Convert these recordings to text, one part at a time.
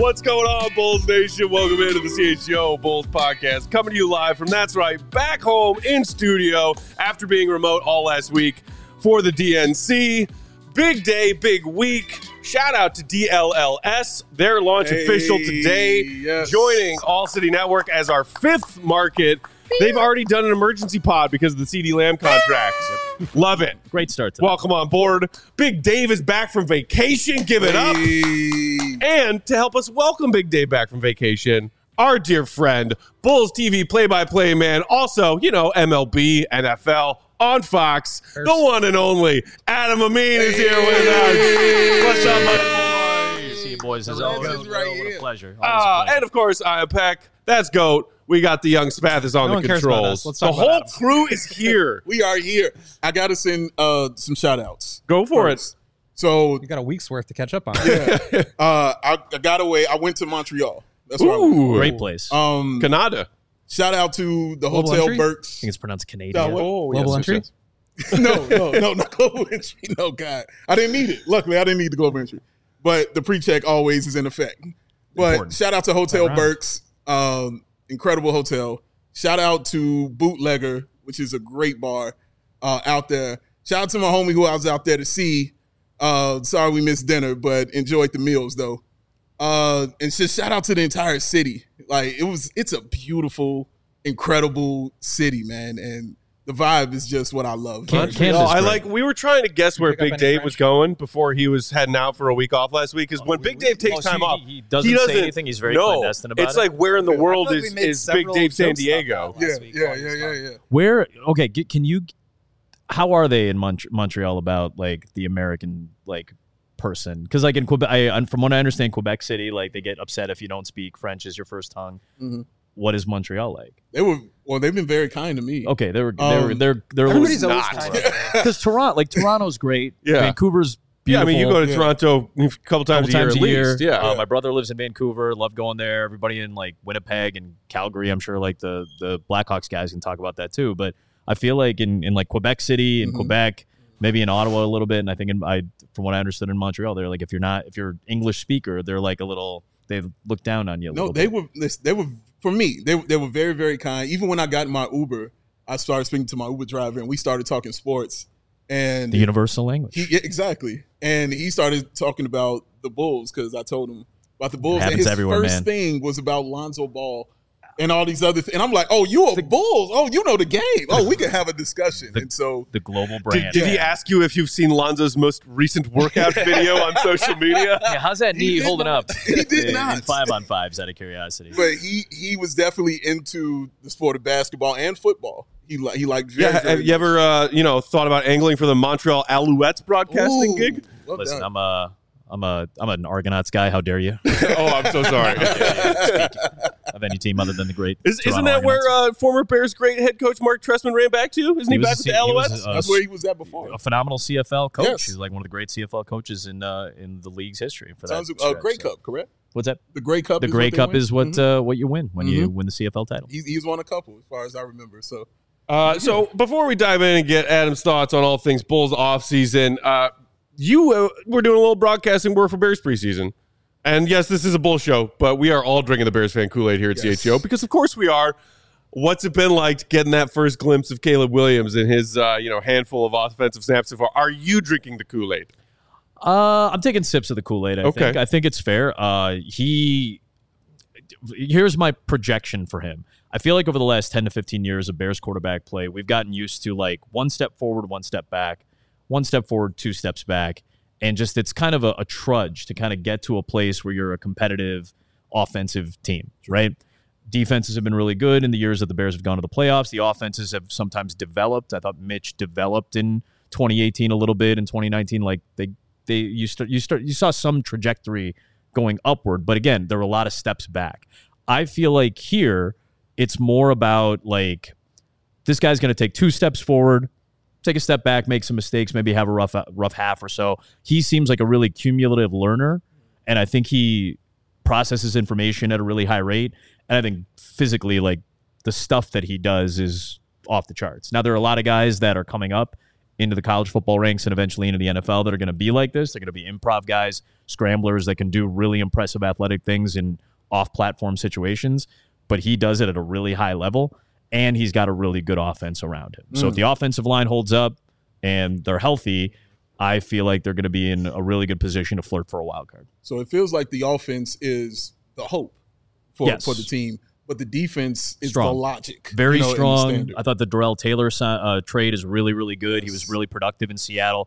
What's going on, Bulls Nation? Welcome into the CHGO Bulls podcast. Coming to you live from, that's right, back home in studio after being remote all last week for the DNC. Big day, big week. Shout out to DLLS. Their launch official today. Yes. Joining All City Network as our fifth market. They've already done an emergency pod because of the CD Lamb contract. Love it. Great start today. Welcome on board. Big Dave is back from vacation. Give it up. And to help us welcome Big Dave back from vacation, our dear friend, Bulls TV play-by-play man, also, MLB, NFL, on Fox, the one and only Adam Amin is here with us. What's up, my boys? See you boys as always. What a pleasure. And of course, I am Peck. That's GOAT. We got the young Spathis on the controls. The whole crew is here. We are here. I got to send some shout-outs. Go for it. So you got a week's worth to catch up on. Yeah. I got away. I went to Montreal. That's where I went. Great place. Canada. Shout out to the Global Hotel Entry? Burks. I think it's pronounced Canadian. Global Entry? No, not Global Entry. No, God. I didn't need it. Luckily, I didn't need the Global Entry. But the pre-check always is in effect. But Important. Shout out to Hotel Burks. Incredible hotel. Shout out to Bootlegger, which is a great bar out there. Shout out to my homie who I was out there to see. Sorry we missed dinner, but enjoyed the meals though. And just shout out to the entire city. Like it's a beautiful, incredible city, man. And the vibe is just what I love. We were trying to guess where Big Dave was going before he was heading out for a week off last week. Because when Big Dave takes time off, he doesn't say anything. He's very clandestine about it. It's like, where in the world is Big Dave San Diego? Yeah. Where? Okay, can you? How are they in Montreal about like the American person? Because like in Quebec, from what I understand, Quebec City, like they get upset if you don't speak French as your first tongue. Mm-hmm. What is Montreal like? They've been very kind to me. Okay, they're everybody's always kind. Because Toronto's great. Yeah. Vancouver's beautiful. Yeah, I mean, you go to Toronto a couple times a year at least. Yeah. My brother lives in Vancouver. Love going there. Everybody in like Winnipeg and Calgary, I'm sure like the Blackhawks guys can talk about that too. But I feel like in like Quebec City and Quebec, maybe in Ottawa a little bit, and I think from what I understood in Montreal, they're like if you're English speaker, they're like they look down on you. They were for me. They were very, very kind. Even when I got in my Uber, I started speaking to my Uber driver, and we started talking sports. And the universal language. Exactly. And he started talking about the Bulls because I told him about the Bulls. And his first thing was about Lonzo Ball and all these other things. And I'm like, oh, you are the Bulls. Oh, you know the game. Oh, we can have a discussion. And so the global brand. Did he ask you if you've seen Lonzo's most recent workout video on social media? Yeah, how's that knee holding up? He did not. In 5-on-5s out of curiosity. But he was definitely into the sport of basketball and football. He liked very, very have you ever thought about angling for the Montreal Alouettes broadcasting gig? Well Listen, done. I'm an Argonauts guy. How dare you? Oh, I'm so sorry. Of any team other than the great. Isn't that where former Bears great head coach Mark Trestman ran back to? Isn't he back with the Alouettes? That's where he was at before. A phenomenal CFL coach. Yes. He's like one of the great CFL coaches in the league's history. For Sounds that Grey Cup, correct? What's that? The Grey Cup. The Grey Cup is what you win when you win the CFL title. He's won a couple, as far as I remember. So. So before we dive in and get Adam's thoughts on all things Bulls offseason, you were doing a little broadcasting work for Bears preseason. And yes, this is a Bull show, but we are all drinking the Bears fan Kool-Aid here at CHGO because, of course, we are. What's it been like getting that first glimpse of Caleb Williams and his handful of offensive snaps so far? Are you drinking the Kool-Aid? I'm taking sips of the Kool-Aid. I think it's fair. Here's my projection for him. I feel like over the last 10 to 15 years of Bears quarterback play, we've gotten used to like one step forward, one step back, one step forward, two steps back. And just it's kind of a trudge to kind of get to a place where you're a competitive offensive team, right? Defenses have been really good in the years that the Bears have gone to the playoffs. The offenses have sometimes developed. I thought Mitch developed in 2018 a little bit. In 2019, like you saw some trajectory going upward. But again, there were a lot of steps back. I feel like here it's more about like this guy's going to take two steps forward, take a step back, make some mistakes, maybe have a rough half or so. He seems like a really cumulative learner, and I think he processes information at a really high rate. And I think physically, like the stuff that he does is off the charts. Now, there are a lot of guys that are coming up into the college football ranks and eventually into the NFL that are going to be like this. They're going to be improv guys, scramblers that can do really impressive athletic things in off-platform situations, but he does it at a really high level, and he's got a really good offense around him. So if the offensive line holds up and they're healthy, I feel like they're going to be in a really good position to flirt for a wild card. So it feels like the offense is the hope for the team, but the defense is strong. The logic. Very strong. I thought the Darrell Taylor trade is really, really good. He was really productive in Seattle.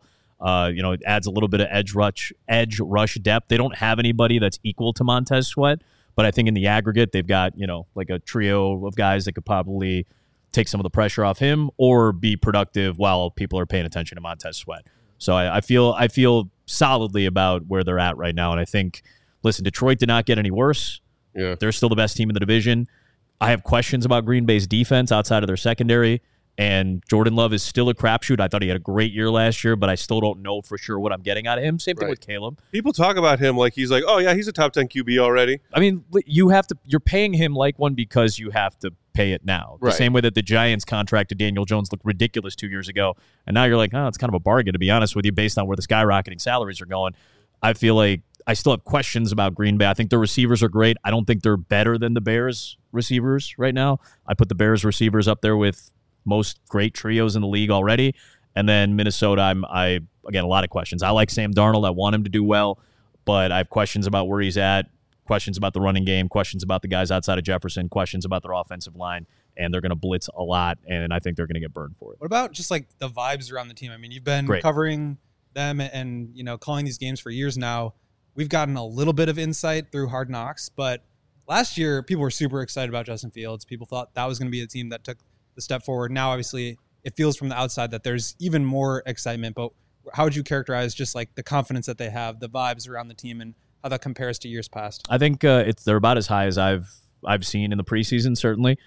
It adds a little bit of edge rush depth. They don't have anybody that's equal to Montez Sweat, but I think in the aggregate, they've got, like a trio of guys that could probably take some of the pressure off him or be productive while people are paying attention to Montez Sweat. So I feel solidly about where they're at right now. And I think, listen, Detroit did not get any worse. Yeah. They're still the best team in the division. I have questions about Green Bay's defense outside of their secondary, and Jordan Love is still a crapshoot. I thought he had a great year last year, but I still don't know for sure what I'm getting out of him. Same thing with Caleb. People talk about him like he's like, oh yeah, he's a top 10 QB already. I mean, you're paying him like one because you have to pay it now. The same way that the Giants contracted Daniel Jones looked ridiculous 2 years ago, and now you're like, oh, it's kind of a bargain, to be honest with you, based on where the skyrocketing salaries are going. I feel like I still have questions about Green Bay. I think their receivers are great. I don't think they're better than the Bears receivers right now. I put the Bears receivers up there with most great trios in the league already. And then Minnesota, again, a lot of questions. I like Sam Darnold. I want him to do well, but I have questions about where he's at, questions about the running game, questions about the guys outside of Jefferson, questions about their offensive line, and they're going to blitz a lot, and I think they're going to get burned for it. What about just like the vibes around the team? I mean, you've been covering them and calling these games for years now. We've gotten a little bit of insight through Hard Knocks, but last year people were super excited about Justin Fields. People thought that was going to be a team that took the step forward. Now, obviously, it feels from the outside that there's even more excitement, but how would you characterize just like the confidence that they have, the vibes around the team, and how that compares to years past? I think they're about as high as I've seen in the preseason, certainly.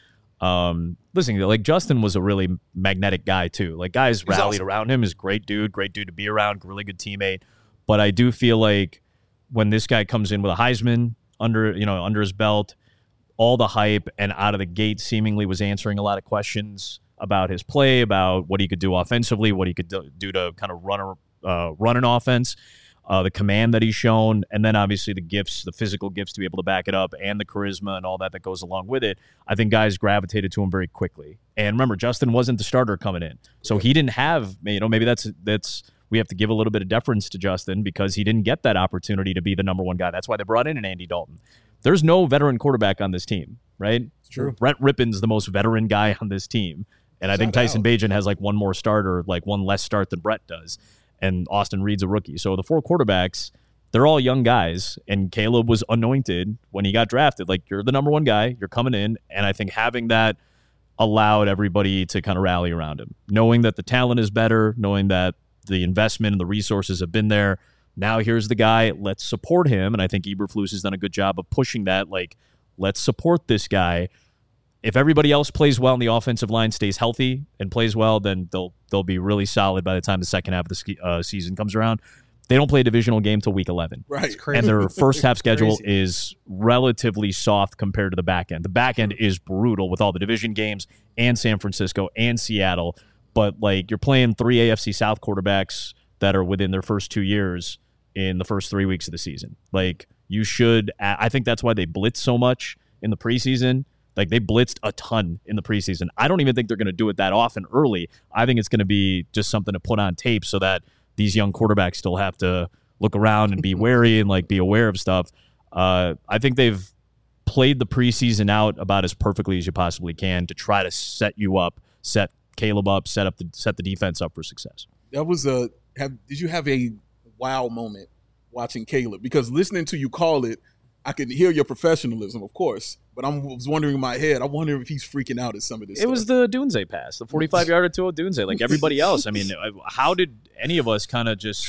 Listen, like Justin was a really magnetic guy too. Like guys rallied around him. Is great dude to be around, really good teammate. But I do feel like when this guy comes in with a Heisman under his belt, all the hype, and out of the gate seemingly was answering a lot of questions about his play, about what he could do offensively, what he could do to kind of run an offense, the command that he's shown, and then obviously the physical gifts to be able to back it up, and the charisma and all that goes along with it. I think guys gravitated to him very quickly. And remember, Justin wasn't the starter coming in, so he didn't have, maybe that's we have to give a little bit of deference to Justin because he didn't get that opportunity to be the number one guy. That's why they brought in an Andy Dalton. There's no veteran quarterback on this team, right? It's true. Brett Rippon's the most veteran guy on this team. And I think Tyson Bagent has like one more start or like one less start than Brett does. And Austin Reed's a rookie. So the four quarterbacks, they're all young guys. And Caleb was anointed when he got drafted. Like, you're the number one guy. You're coming in. And I think having that allowed everybody to kind of rally around him. Knowing that the talent is better, knowing that the investment and the resources have been there. Now here's the guy. Let's support him. And I think Eberflus has done a good job of pushing that. Like, let's support this guy. If everybody else plays well and the offensive line stays healthy and plays well, then they'll be really solid by the time the second half of the season comes around. They don't play a divisional game till week 11. Right. And their first half schedule is relatively soft compared to the back end. The back end is brutal with all the division games and San Francisco and Seattle. But like, you're playing 3 AFC South quarterbacks that are within their first 2 years in the first 3 weeks of the season. Like, you should, I think that's why they blitz so much in the preseason. Like, they blitzed a ton in the preseason. I don't even think they're going to do it that often early. I think it's going to be just something to put on tape so that these young quarterbacks still have to look around and be wary and like be aware of stuff. I think they've played the preseason out about as perfectly as you possibly can to try to set you up, set Caleb up, set the defense up for success. That was did you have a wow moment watching Caleb? Because listening to you call it, I could hear your professionalism, of course, but I was wondering in my head, I wonder if he's freaking out at some of this stuff. It was the Dunze pass, the 45-yarder to a Dunze, like everybody else. I mean, how did any of us kind of just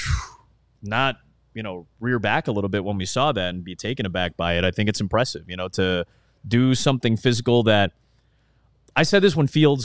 not, rear back a little bit when we saw that and be taken aback by it? I think it's impressive, to do something physical that I said this when Fields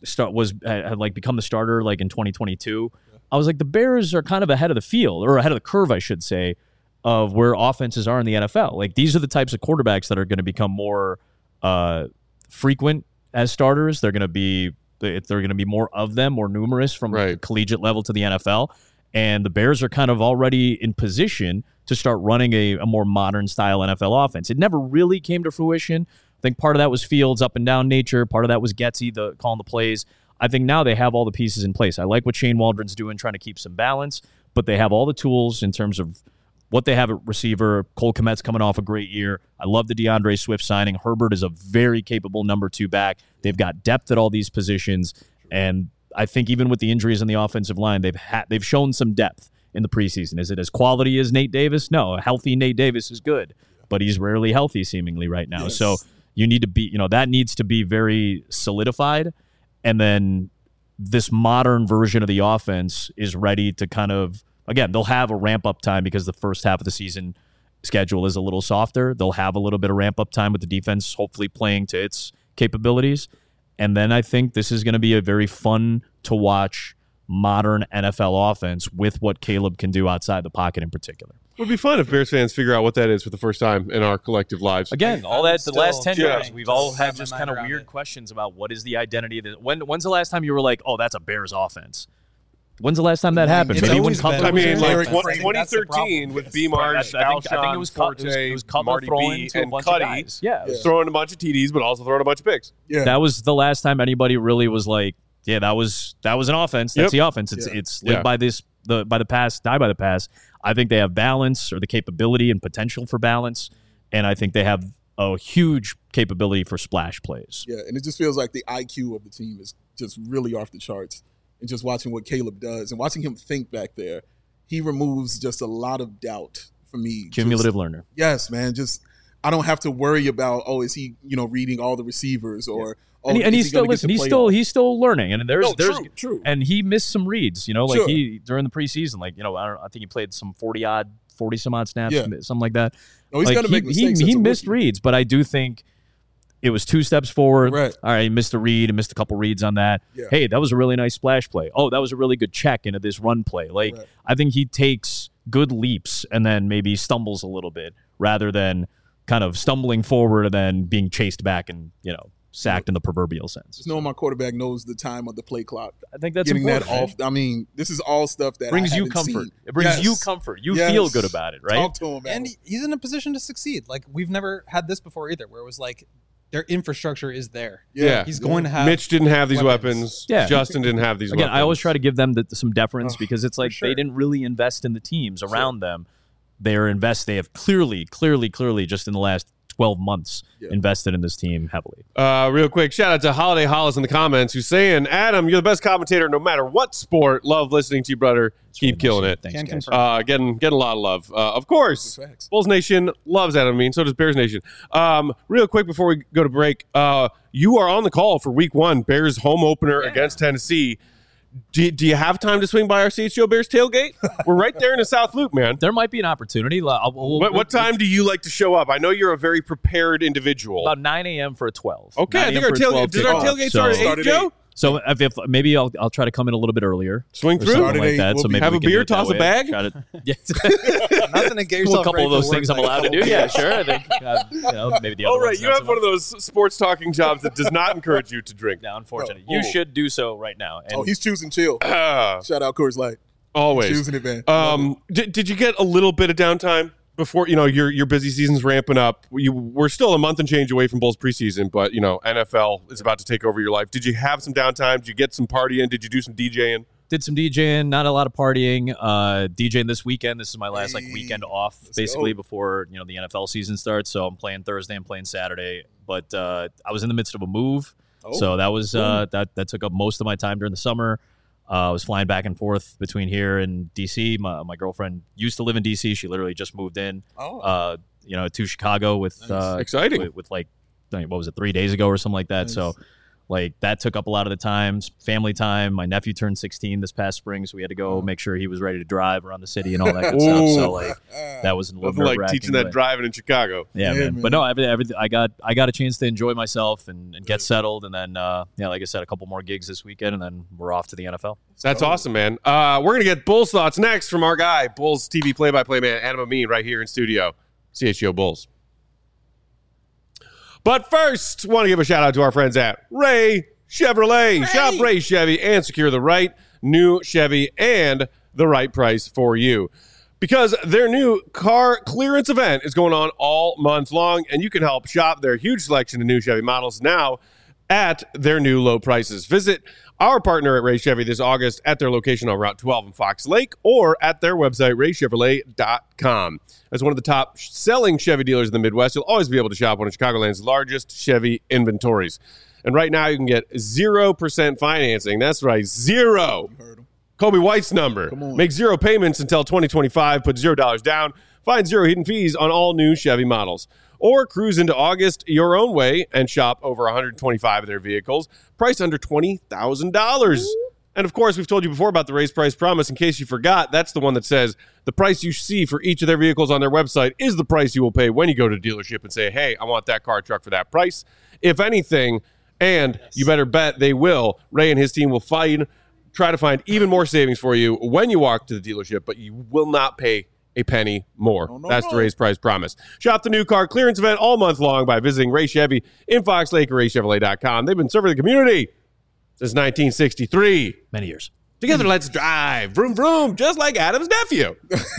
had like become the starter like in 2022. Yeah. I was like, the Bears are kind of ahead of the field, or ahead of the curve, I should say, of where offenses are in the NFL. Like, these are the types of quarterbacks that are going to become more frequent as starters. They're going to be They're going to be more of them, more numerous from the collegiate level to the NFL. And the Bears are kind of already in position to start running a more modern style NFL offense. It never really came to fruition. I think part of that was Fields' up and down nature. Part of that was Getsy calling the plays. I think now they have all the pieces in place. I like what Shane Waldron's doing, trying to keep some balance, but they have all the tools in terms of what they have at receiver. Cole Kmet's coming off a great year. I love the DeAndre Swift signing. Herbert is a very capable number 2 back. They've got depth at all these positions, and I think even with the injuries in the offensive line, they've shown some depth in the preseason. Is it as quality as Nate Davis? No, a healthy Nate Davis is good, but he's rarely healthy seemingly right now. Yes. So you need to be, that needs to be very solidified, and then this modern version of the offense is ready to kind of, again, they'll have a ramp-up time because the first half of the season schedule is a little softer. They'll have a little bit of ramp-up time with the defense hopefully playing to its capabilities. And then I think this is going to be a very fun-to-watch modern NFL offense with what Caleb can do outside the pocket in particular. It would be fun if Bears fans figure out what that is for the first time in our collective lives. Again, all that the last 10 years, we've all had just kind of weird questions about what is the identity of the, when's the last time you were like, oh, that's a Bears offense? When's the last time that happened? Maybe when Cutler was in like 2013 with B-Marsh, Alshon, it was Cutler Marty B, and Cuddy. Yeah. Throwing a bunch of TDs, but also throwing a bunch of picks. Yeah. That was the last time anybody really was like, yeah, that was an offense. That's the offense. It's live by this, by the pass, die by the pass. I think they have balance or the capability and potential for balance, and I think they have a huge capability for splash plays. Yeah, and it just feels like the IQ of the team is just really off the charts. And just watching what Caleb does and watching him think back there, he removes just a lot of doubt for me. Cumulative learner. Yes, man. Just I don't have to worry about, is he, reading all the receivers or and he's still he's still learning. And there's true. And he missed some reads, he during the preseason, I think he played some 40 some odd snaps, something like that. No, he's gonna make mistakes. He missed reads, but I do think it was 2 steps forward. Right. All right, he missed a read and missed a couple reads on that. Yeah. Hey, that was a really nice splash play. Oh, that was a really good check into this run play. I think he takes good leaps and then maybe stumbles a little bit rather than kind of stumbling forward and then being chased back and, sacked in the proverbial sense. Just knowing my quarterback knows the time of the play clock. I think that's getting important, that off. I mean, this is all stuff that brings I you haven't comfort. seen. It brings you comfort. You feel good about it, right? Talk to him, and he's in a position to succeed. Like, we've never had this before either, where it was like their infrastructure is there. Yeah. He's going to have Mitch didn't have these weapons. Yeah. Justin didn't have these weapons. I always try to give them some deference because it's like they didn't really invest in the teams around them. They have clearly just in the last 12 months invested in this team heavily. Real quick, shout out to Holiday Hollis in the comments who's saying, Adam, you're the best commentator no matter what sport. Love listening to you, brother. Keep killing it. Thanks, guys. Getting a lot of love. Of course, Bulls Nation loves Adam Amin. So does Bears Nation. Real quick before we go to break, you are on the call for Week 1, Bears home opener against Tennessee. Do you have time to swing by our CHGO Bears tailgate? We're right there in the South Loop, man. There might be an opportunity. What time do you like to show up? I know you're a very prepared individual. About 9 a.m. for a 12. Okay, I think our tailgate start at 8, Joe? So if maybe I'll try to come in a little bit earlier. Swing through like that. So maybe have a beer, toss a bag. Nothing to get yourself. A couple of those things I'm allowed to do. Yeah, sure. I think maybe the other. Oh, right. You have one of those sports talking jobs that does not encourage you to drink. No, unfortunately, you should do so right now. And he's choosing chill. Shout out Coors Light. Always choosing it, man. Did you get a little bit of downtime before your busy season's ramping up? We're still a month and change away from Bulls preseason, but NFL is about to take over your life. Did you have some downtime? Did you get some partying? Did you do some DJing? Did some DJing, not a lot of partying. DJing this weekend. This is my last weekend off, basically before the NFL season starts. So I'm playing Thursday, I'm playing Saturday. But I was in the midst of a move, so that was that took up most of my time during the summer. I was flying back and forth between here and D.C. My girlfriend used to live in D.C. She literally just moved in, to Chicago with exciting with like, what was it, 3 days ago or something like that. Nice. So like that took up a lot of the time, family time. My nephew turned 16 this past spring, so we had to go make sure he was ready to drive around the city and all that good stuff. So like that was a little like teaching that driving in Chicago. Yeah, man. But no, everything I got a chance to enjoy myself and get settled, and then like I said, a couple more gigs this weekend, and then we're off to the NFL. That's awesome, man. We're gonna get Bulls thoughts next from our guy, Bulls TV play-by-play man Adam Amin, right here in studio, CHGO Bulls. But first, want to give a shout out to our friends at Ray Chevrolet. Shop Ray Chevy and secure the right new Chevy and the right price for you. Because their new car clearance event is going on all month long, and you can help shop their huge selection of new Chevy models now at their new low prices. Visit our partner at Ray Chevy this August at their location on Route 12 in Fox Lake or at their website, raychevrolet.com. As one of the top selling Chevy dealers in the Midwest, you'll always be able to shop one of Chicagoland's largest Chevy inventories. And right now, you can get 0% financing. That's right, 0. You heard him. Kobe White's number. Make 0 payments until 2025. Put $0 down. Find 0 hidden fees on all new Chevy models. Or cruise into August your own way and shop over 125 of their vehicles, priced under $20,000. And of course, we've told you before about the raised price promise. In case you forgot, that's the one that says the price you see for each of their vehicles on their website is the price you will pay when you go to a dealership and say, hey, I want that car or truck for that price. If anything, and you better bet they will, Ray and his team will try to find even more savings for you when you walk to the dealership, but you will not pay a penny more. That's the raised price promise. Shop the new car clearance event all month long by visiting Ray Chevy in Fox Lake or raychevrolet.com. They've been serving the community since 1963. Many years. Together, let's drive. Vroom, vroom, just like Adam's nephew.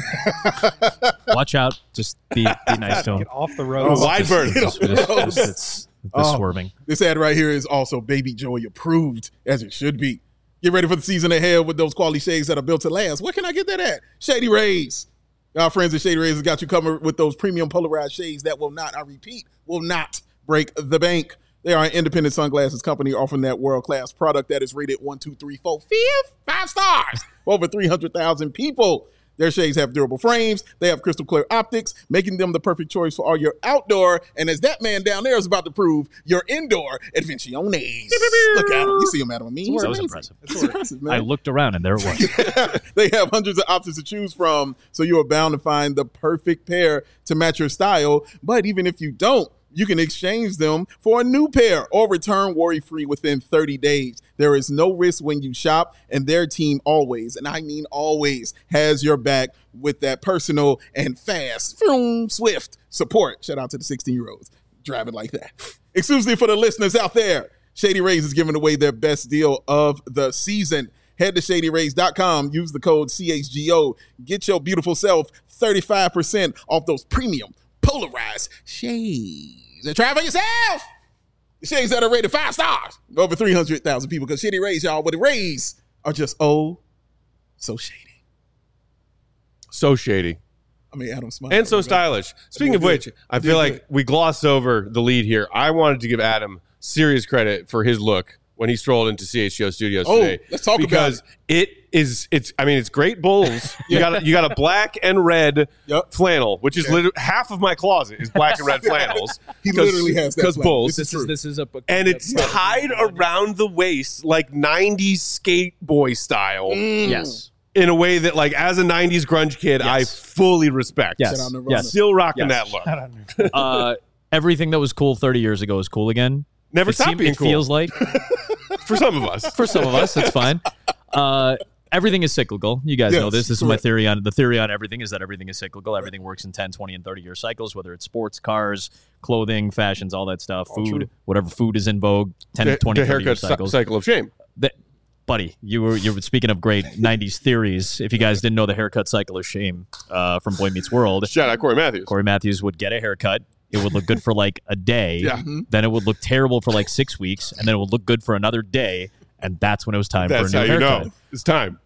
Watch out. Just be nice to him. Get off the road. Wide berth. It's swerving. This ad right here is also Baby Joey approved, as it should be. Get ready for the season ahead with those quality shades that are built to last. Where can I get that at? Shady Rays. Our friends at Shady Rays has got you covered with those premium polarized shades that will not, I repeat, will not break the bank. They are an independent sunglasses company offering that world-class product that is rated 1, 2, 3, 4, 5 stars for over 300,000 people. Their shades have durable frames. They have crystal clear optics, making them the perfect choice for all your outdoor, and as that man down there is about to prove, your indoor adventiones. Look at him. You see him, Adam. That was impressive. It's impressive, man. I looked around and there it was. They have hundreds of options to choose from, so you are bound to find the perfect pair to match your style. But even if you don't, you can exchange them for a new pair or return worry-free within 30 days. There is no risk when you shop, and their team always, and I mean always, has your back with that personal and fast, swift support. Shout out to the 16-year-olds driving like that. Exclusively for the listeners out there, Shady Rays is giving away their best deal of the season. Head to ShadyRays.com. Use the code CHGO. Get your beautiful self 35% off those premium polarized shades. And try it for yourself. The shades that are rated 5 stars. Over 300,000 people. Because Shady Rays, y'all, what the Rays are just so shady. So shady. I mean, Adam Smile. And so stylish. Speaking of which, I feel like we glossed over the lead here. I wanted to give Adam serious credit for his look when he strolled into CHGO Studios today. Let's talk about it. It's great Bulls. You got a black and red flannel, which is literally half of my closet is black and red flannels. He literally has that. Because Bulls. This is and it's tied around the waist like 90s skate boy style. Yes. In a way that, like, as a 90s grunge kid, I fully respect. Yes. Still rocking that look. Everything that was cool 30 years ago is cool again. Never stopped being cool. It feels like. For some of us. For some of us, that's fine. Everything is cyclical. You guys know this. This is my theory on everything is that everything is cyclical. Everything works in 10, 20, and 30-year cycles, whether it's sports, cars, clothing, fashions, all that stuff, food, whatever food is in vogue, 10, 20, 30-year cycles. Cycle of shame. Buddy, you were speaking of great 90s theories. If you guys didn't know the haircut cycle of shame from Boy Meets World. Shout out Corey Matthews. Corey Matthews would get a haircut. It would look good for like a day. Then it would look terrible for like 6 weeks. And then it would look good for another day. And that's when it was time for a new haircut. That's how you know. It's time.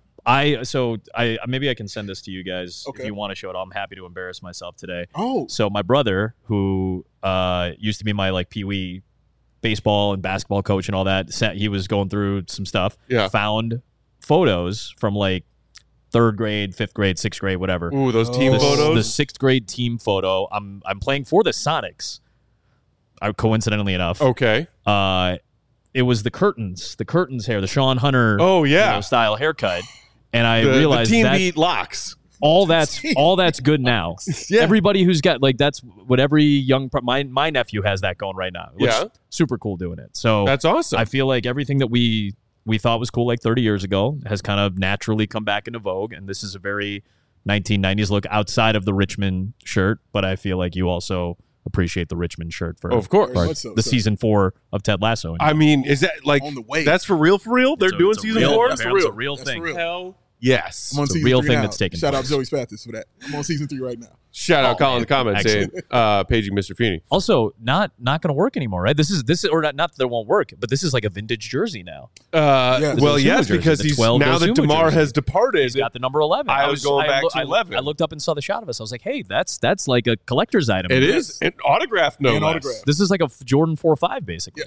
I maybe I can send this to you guys if you want to show it. I'm happy to embarrass myself today. So my brother, who used to be my like peewee baseball and basketball coach and all that, he was going through some stuff. Found photos from like 3rd grade, 5th grade, 6th grade, whatever. Ooh, those team photos. The 6th grade team photo. I'm playing for the Sonics. Coincidentally enough. Okay. It was the curtains hair, the Sean Hunter style haircut. And I realized the team that beat locks. all that's good now. Everybody who's got like that's what every young my nephew has that going right now. Super cool doing it. So that's awesome. I feel like everything that we thought was cool like 30 years ago has kind of naturally come back into vogue, and this is a very 1990s look outside of the Richmond shirt, but I feel like you also appreciate the Richmond shirt for, of course, the season 4 of Ted Lasso. I mean, is that like on the way? That's for real? For real? They're doing season 4? That's a real thing. Hell yes. I'm on it's season a real 3 thing now. that's taking Shout place. out Joey Spathis for that. I'm on season 3 right now. Shout out Colin in the comments Excellent. saying paging Mr. Feeney. Also, not going to work anymore, right? This is or not that it won't work, but this is like a vintage jersey now. Well, yes, jersey, because the he's 12 now that Dosunmu DeMar jersey. has departed. He's got the number 11. I was going back to 11. I looked up and saw the shot of us. I was like, hey, that's like a collector's item. It is an autograph, no And less. autograph. This is like a Jordan 4.5, basically.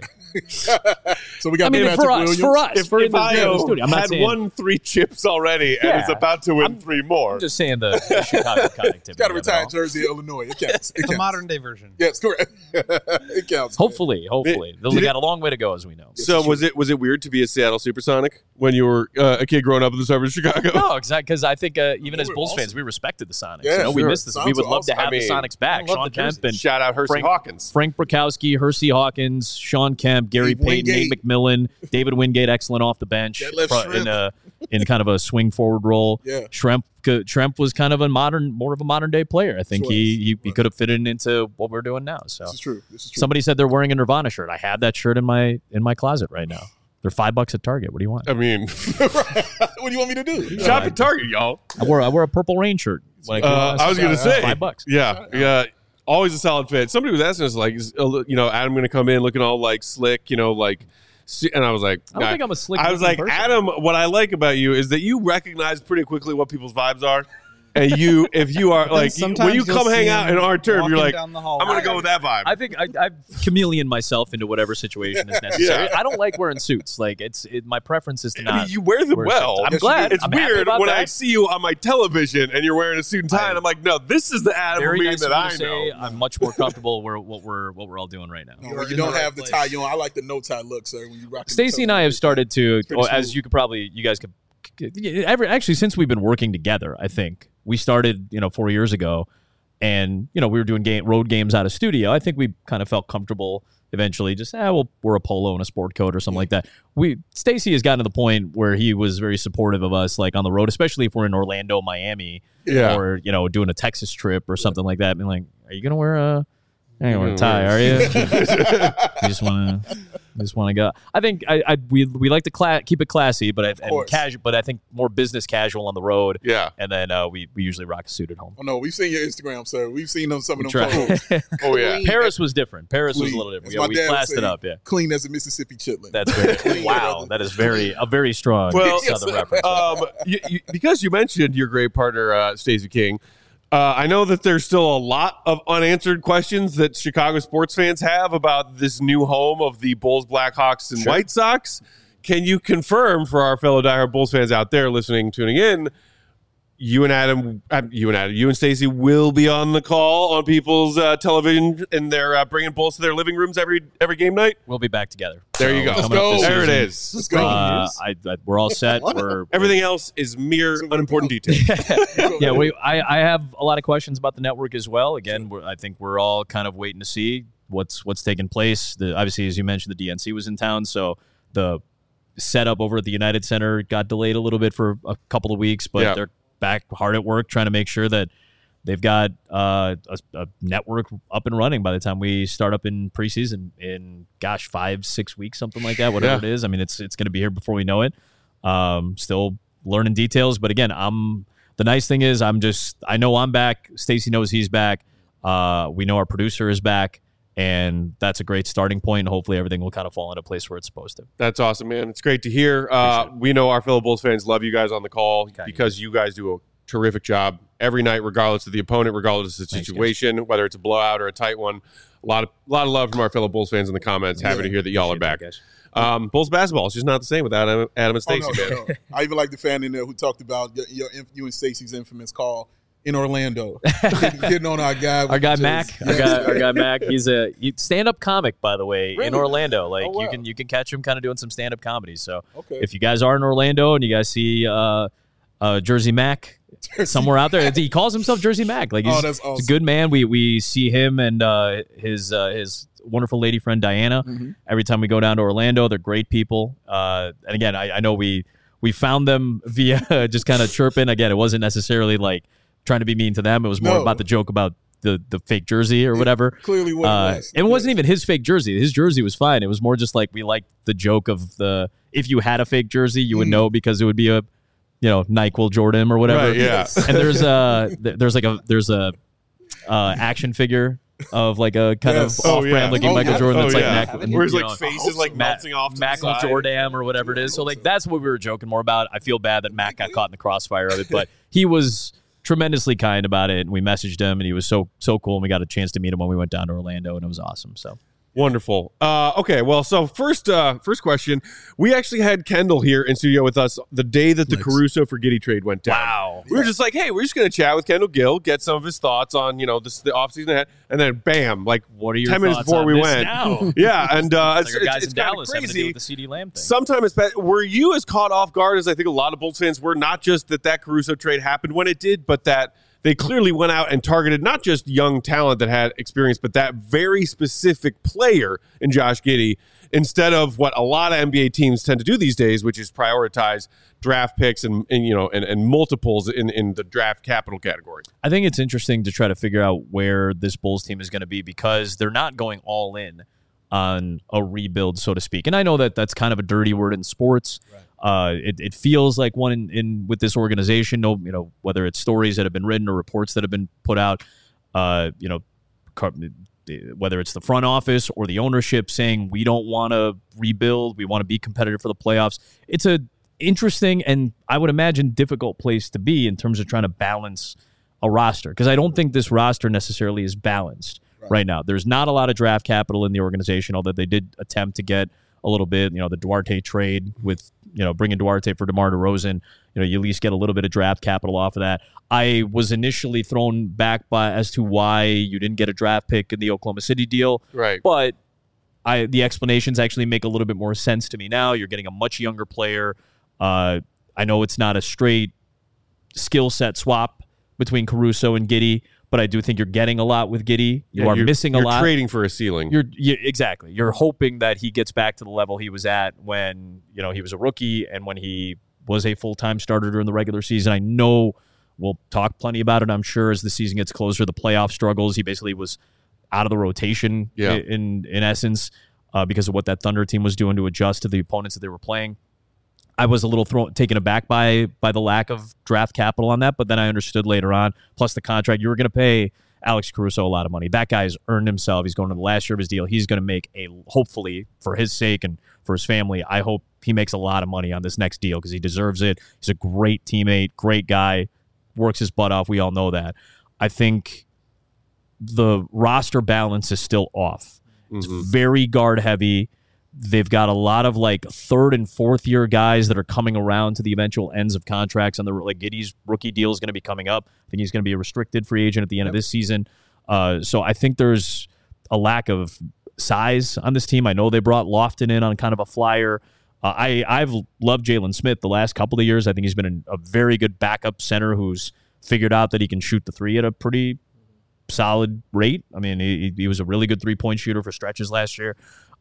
So we got I mean, Patrick for us, Williams. for If Io studio. I'm not had saying, won 3 chips already and Yeah. is about to win 3 more. I'm just saying the Chicago connectivity. Got a of it retired all. jersey in Illinois. It counts. It It's a counts. modern day version. Yes, correct. It counts. Hopefully. They got a long way to go, as we know. So was it weird to be a Seattle Supersonic when you were a kid growing up in the suburbs of Chicago? No, exactly. Because I think even as were Bulls awesome. fans, we respected the Sonics. Yeah, we sure. missed this. Sonics We would were love to awesome. have I the mean, Sonics back. I love Sean the Kemp jerseys. and Shout out Hersey Hawkins. Frank Brakowski, Hersey Hawkins, Sean Kemp, Gary Dave Payton, Nate Wingate. McMillan, David Wingate, excellent off the bench Detlef in kind of a swing forward role. Yeah. Tremp was kind of more of a modern day player. I think Sure he could have fitted into what we're doing now. So This is true. somebody said they're wearing a Nirvana shirt. I have that shirt in my closet right now. They're $5 at Target. What do you want? I mean, What do you want me to do? shop at Target, y'all. I wore a Purple Rain shirt. When I was gonna say $5. Yeah. Always a solid fit. Somebody was asking us like, is, Adam going to come in looking all like slick, and I was like, I don't think I'm a slick. I was like, person. Adam, what I like about you is that you recognize pretty quickly what people's vibes are. And if you are like, when you come hang out in our turf, you're like, I'm going to go with that vibe. I think I chameleon myself into whatever situation is necessary. Yeah. I don't like wearing suits. Like my preference is to not. I mean, you wear them wear well. suits. I'm glad. It's I'm happy weird about when that. I see you on my television and you're wearing a suit and tie, and I'm like, no, this is the Adam Very Levine nice that of you I to say. know. I'm much more comfortable what we're all doing right now. No, You're when you in don't the right have the place. tie on. I like the no tie look, sir. When you rock. Stacey and I have started to, Pretty as smooth. you could probably, you guys could, actually since we've been working together, I think we started 4 years ago, and we were doing road games out of studio. I think we kind of felt comfortable eventually. Just we'll wear a polo and a sport coat or something like that. Stacey has gotten to the point where he was very supportive of us, like on the road, especially if we're in Orlando, Miami, Yeah. or doing a Texas trip or something like that. Being like, are you gonna wear a tie? Are you? You just want to go. I think we like to keep it classy, but casual. But I think more business casual on the road. Yeah. And then we usually rock a suit at home. Oh no, we've seen your Instagram, sir. We've seen some of them Try. photos. Oh, yeah. Paris was different. Paris was a Clean. little different. As Yeah, my we dad would classed say, it up. Yeah. Clean as a Mississippi chitlin. That's very Clean, wow. brother. That is a very strong Well, Southern reference. Because you mentioned your great partner, Stacey King, I know that there's still a lot of unanswered questions that Chicago sports fans have about this new home of the Bulls, Blackhawks, and White Sox. Can you confirm for our fellow diehard Bulls fans out there listening, tuning in, you and Stacey will be on the call on people's television, and they're bringing Bulls to their living rooms every game night? We'll be back together. There you go. Coming Let's up this go. There it season, is. Let's go. we're all set. Everything else is mere unimportant details. Yeah, I have a lot of questions about the network as well. Again, I think we're all kind of waiting to see what's taking place. Obviously, as you mentioned, the DNC was in town, so the setup over at the United Center got delayed a little bit for a couple of weeks, but they're back hard at work trying to make sure that they've got a network up and running by the time we start up in preseason in 5-6 weeks, something like that, whatever it is. I mean, it's going to be here before we know it. Still learning details, but again, the nice thing is I know I'm back. Stacey knows he's back. We know our producer is back, and that's a great starting point. Hopefully everything will kind of fall into place where it's supposed to. That's awesome, man. It's great to hear. We know our fellow Bulls fans love you guys on the call because you guys do a terrific job every night, regardless of the opponent, regardless of the situation, whether it's a blowout or a tight one. A lot of love from our fellow Bulls fans in the comments. Happy to hear that y'all are back. Bulls basketball is just not the same without Adam and Stacey, man. No. I even like the fan in there who talked about you and Stacey's infamous call in Orlando, getting on our guy. Our guy Mac. Our guy Mac. He's a stand-up comic, by the way, Really? in Orlando. Like wow. you can catch him kind of doing some stand-up comedy. So Okay. if you guys are in Orlando and you guys see Jersey Mac somewhere out there, he calls himself Jersey Mac. Like he's, that's awesome. he's a good man. We see him and his wonderful lady friend Diana every time we go down to Orlando. They're great people. And again, I know we found them via just kind of chirping. Again, it wasn't necessarily like trying to be mean to them. It was more No. about the joke about the fake jersey or whatever. Clearly what it was. It wasn't even his fake jersey. His jersey was fine. It was more just like we liked the joke of if you had a fake jersey, you would know because it would be a NyQuil Jordan or whatever. Right, yeah. And there's a action figure of like a kind of off-brand looking Michael Jordan that's where his like face is like melting off to Michael the side. Jordan or whatever it is. So like that's what we were joking more about. I feel bad that Matt got caught in the crossfire of it, but he was tremendously kind about it, and we messaged him, and he was so cool, and we got a chance to meet him when we went down to Orlando, and it was awesome. So wonderful. Okay, well, so first question, we actually had Kendall here in studio with us the day that the Caruso for Giddey trade went down. Wow. We were just like, hey, we're just going to chat with Kendall Gill, get some of his thoughts on the offseason ahead, and then bam, like what are your 10 minutes thoughts before on we this went. Now? Yeah, and it's guys it's in Dallas crazy. having to deal with the CD Lamb thing. Sometimes were you as caught off guard as I think a lot of Bulls fans were? Not just that Caruso trade happened when it did, but that they clearly went out and targeted not just young talent that had experience, but that very specific player in Josh Giddey, instead of what a lot of NBA teams tend to do these days, which is prioritize draft picks and multiples in the draft capital category. I think it's interesting to try to figure out where this Bulls team is going to be because they're not going all in on a rebuild, so to speak. And I know that that's kind of a dirty word in sports. Right. It feels like one in with this organization. Whether it's stories that have been written or reports that have been put out. Whether it's the front office or the ownership saying we don't want to rebuild, we want to be competitive for the playoffs. It's a interesting and I would imagine difficult place to be in terms of trying to balance a roster because I don't think this roster necessarily is balanced right now. There's not a lot of draft capital in the organization, although they did attempt to get a little bit. The Duarte trade with bringing Duarte for DeMar DeRozan. You at least get a little bit of draft capital off of that. I was initially thrown back by as to why you didn't get a draft pick in the Oklahoma City deal, right? But the explanations actually make a little bit more sense to me now. You're getting a much younger player. I know it's not a straight skill set swap between Caruso and Giddey, but I do think you're getting a lot with Giddey. You're missing a lot. You're trading for a ceiling. Exactly. You're hoping that he gets back to the level he was at when he was a rookie and when he was a full-time starter during the regular season. I know we'll talk plenty about it, I'm sure, as the season gets closer. The playoff struggles, he basically was out of the rotation in essence because of what that Thunder team was doing to adjust to the opponents that they were playing. I was a little taken aback by the lack of draft capital on that, but then I understood later on, plus the contract, you were going to pay Alex Caruso a lot of money. That guy's earned himself. He's going to the last year of his deal. He's going to make hopefully, for his sake and for his family, I hope he makes a lot of money on this next deal because he deserves it. He's a great teammate, great guy, works his butt off. We all know that. I think the roster balance is still off. It's very guard heavy. They've got a lot of like third and fourth year guys that are coming around to the eventual ends of contracts. And Giddey's rookie deal is going to be coming up. I think he's going to be a restricted free agent at the end of this season. So I think there's a lack of size on this team. I know they brought Lofton in on kind of a flyer. I've loved Jalen Smith the last couple of years. I think he's been a very good backup center who's figured out that he can shoot the three at a pretty solid rate. I mean, he was a really good three-point shooter for stretches last year.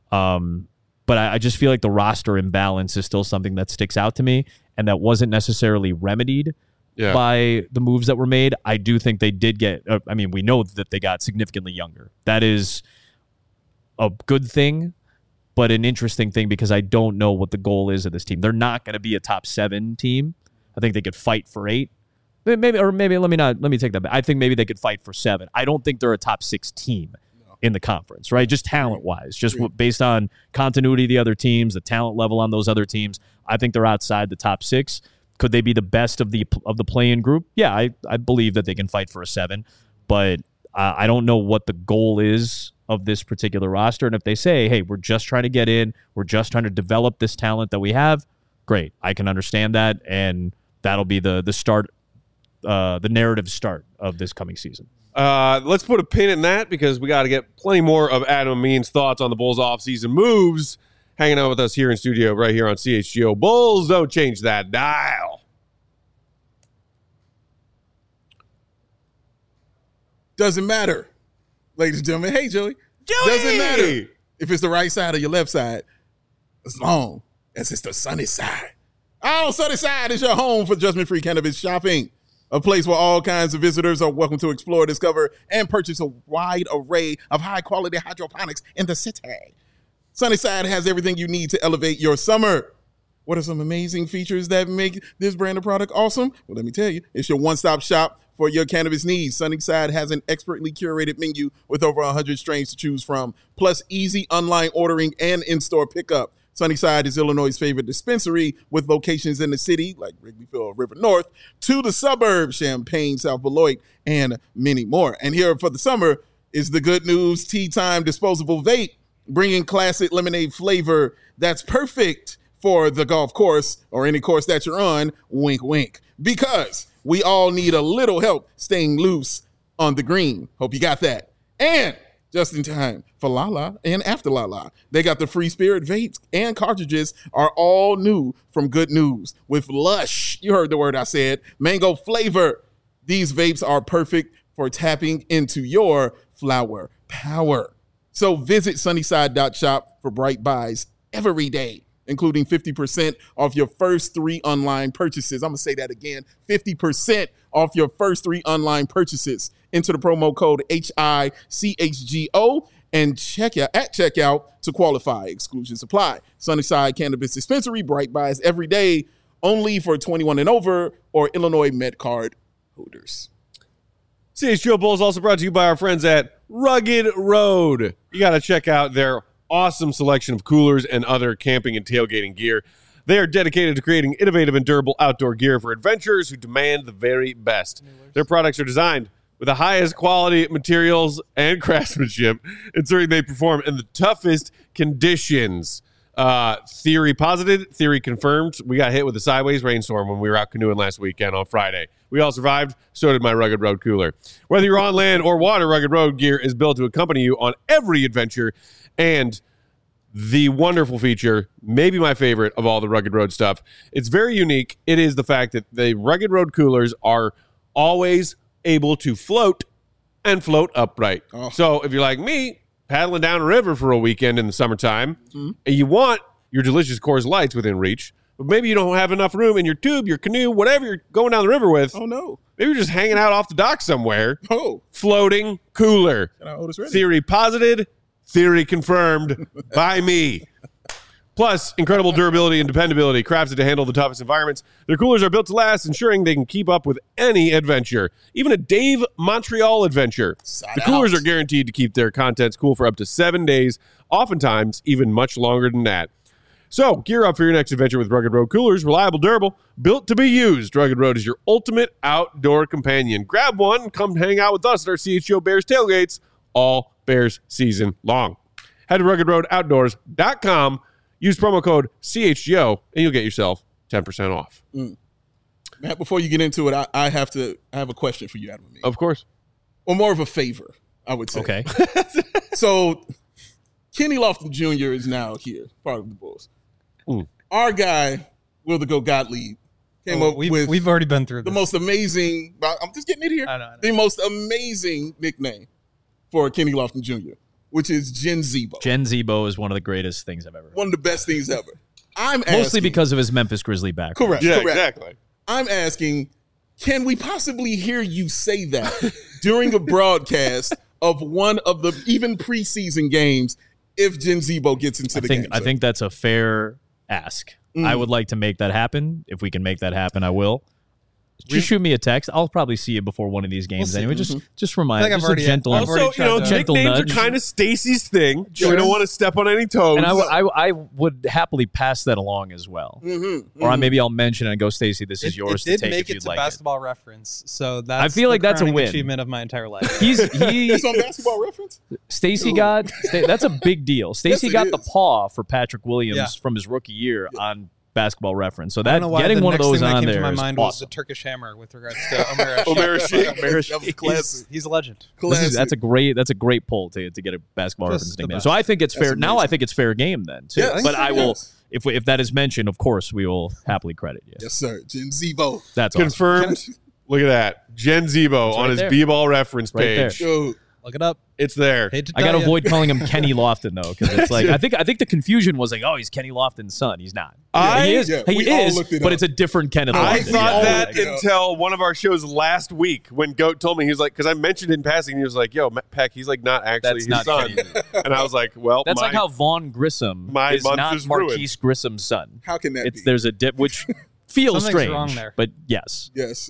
But I just feel like the roster imbalance is still something that sticks out to me, and that wasn't necessarily remedied by the moves that were made. I do think they did get we know that they got significantly younger. That is a good thing, but an interesting thing because I don't know what the goal is of this team. They're not going to be a top 7 team. I think they could fight for 8. Maybe let me take that back. I think maybe they could fight for 7. I don't think they're a top 6 team in the conference, right? Just talent-wise, just based on continuity of the other teams, the talent level on those other teams. I think they're outside the top 6. Could they be the best of the play-in group? Yeah, I believe that they can fight for a 7, but I don't know what the goal is of this particular roster. And if they say, hey, we're just trying to get in, we're just trying to develop this talent that we have, great. I can understand that, and that'll be the start, the narrative start of this coming season. Let's put a pin in that because we got to get plenty more of Adam Amin's thoughts on the Bulls offseason moves hanging out with us here in studio right here on CHGO. Bulls, don't change that dial. Doesn't matter, ladies and gentlemen. Hey, Joey. Doesn't matter if it's the right side or your left side, as long as it's the sunny side. Oh, sunny side is your home for judgment-free cannabis shopping. a place where all kinds of visitors are welcome to explore, discover, and purchase a wide array of high-quality hydroponics in the city. Sunnyside has everything you need to elevate your summer. What are some amazing features that make this brand of product awesome? Well, let me tell you, it's your one-stop shop for your cannabis needs. Sunnyside has an expertly curated menu with over 100 strains to choose from, plus easy online ordering and in-store pickup. Sunnyside is Illinois' favorite dispensary with locations in the city, like Wrigleyville or River North, to the suburbs, Champaign, South Beloit, and many more. And here for the summer is the good news Tea Time disposable vape, bringing classic lemonade flavor that's perfect for the golf course or any course that you're on, wink, wink. Because we all need a little help staying loose on the green. Hope you got that. And just in time for Lala and after Lala, they got the Free Spirit vapes and cartridges are all new from Good News with lush, you heard the word I said, mango flavor. These vapes are perfect for tapping into your flower power. So visit sunnyside.shop for bright buys every day, including 50% off your first 3 online purchases. I'm going to say that again, 50% off your first 3 online purchases. Enter the promo code HICHGO and check out at checkout to qualify. Exclusions apply. Sunnyside Cannabis Dispensary, bright buys every day, only for 21 and over or Illinois Med Card holders. CHGO Bowl is also brought to you by our friends at Rugged Road. You got to check out their awesome selection of coolers and other camping and tailgating gear. They are dedicated to creating innovative and durable outdoor gear for adventurers who demand the very best. Their products are designed with the highest quality materials and craftsmanship, ensuring they perform in the toughest conditions. Theory posited, theory confirmed. We got hit with a sideways rainstorm when we were out canoeing last weekend on Friday. We all survived. So did my Rugged Road cooler. Whether you're on land or water, Rugged Road gear is built to accompany you on every adventure. And the wonderful feature, maybe my favorite of all the Rugged Road stuff, it's very unique. It is the fact that the Rugged Road coolers are always able to float and float upright. Oh. So if you're like me, paddling down a river for a weekend in the summertime, and you want your delicious Coors Lights within reach, but maybe you don't have enough room in your tube, your canoe, whatever you're going down the river with. Oh, no. Maybe you're just hanging out off the dock somewhere. Oh. Floating cooler. Theory posited, theory confirmed by me. Plus, incredible durability and dependability, crafted to handle the toughest environments. Their coolers are built to last, ensuring they can keep up with any adventure, even a Dave Montreal adventure. The coolers are guaranteed to keep their contents cool for up to 7 days, oftentimes even much longer than that. So, gear up for your next adventure with Rugged Road coolers, reliable, durable, built to be used. Rugged Road is your ultimate outdoor companion. Grab one and come hang out with us at our CHGO Bears tailgates all Bears season long. Head to ruggedroadoutdoors.com. Use promo code CHGO, and you'll get yourself 10% off. Matt, before you get into it, I have a question for you, Adam. Of course. Or more of a favor, I would say. Okay. So, Kenny Lofton Jr. is now here, part of the Bulls. Our guy, Will the Go Gottlieb, came up with... We've already been through this. The most amazing... I'm just getting it here. I know. The most amazing nickname for Kenny Lofton Jr., which is Gen Zebo. Gen Zebo is one of the greatest things I've ever heard. One of the best things ever. Mostly because of his Memphis Grizzly background. Correct. Yeah, correct. Exactly. I'm asking, can we possibly hear you say that during a broadcast of one of the even preseason games if Gen Zebo gets into the game? I think that's a fair ask. I would like to make that happen. If we can make that happen, I will. Just shoot me a text. I'll probably see you before one of these games anyway. Just remind me. Just a gentle, also, gentle nicknames nudge. are kind of Stacy's thing. Sure. We don't want to step on any toes. And I would happily pass that along as well. Or maybe I'll mention it and go, Stacy, this is yours to take if you'd like it. It did make it to Basketball Reference, so that's I feel like that's a win. Achievement of my entire life. It's on Basketball Reference? Stacy that's a big deal. Stacy got the paw for Patrick Williams from his rookie year on Basketball Reference. So that getting one of those on there is awesome. Was the Turkish Hammer with regards to Omer Asik. That was classic. He's a legend. That's a great poll to get a Basketball Reference nickname. So I think it's fair. Now I think it's fair game then too. Yes, but I will if that is mentioned, of course we will happily credit you. Yes, sir. Gen Zebo. That's confirmed. Awesome. Look at that. Gen Zebo on his B-Ball Reference page. Right Look it up. It's there. Hate to I got to tell ya. avoid calling him Kenny Lofton though, because it's like I think the confusion was like, oh, he's Kenny Lofton's son. He's not. He is, we all looked it but up. it's a different Kenneth I Lofton. thought Yeah. that until one of our shows last week when Goat told me, he was like, because I mentioned it in passing, he was like, yo, Peck, he's like not actually That's his not son. Kenny. And I was like, well, That's like how Vaughn Grissom my is month not is ruined. Marquise Grissom's son. How can that be? There's a dip, which feels Something's strange, wrong there. but yes. Yes.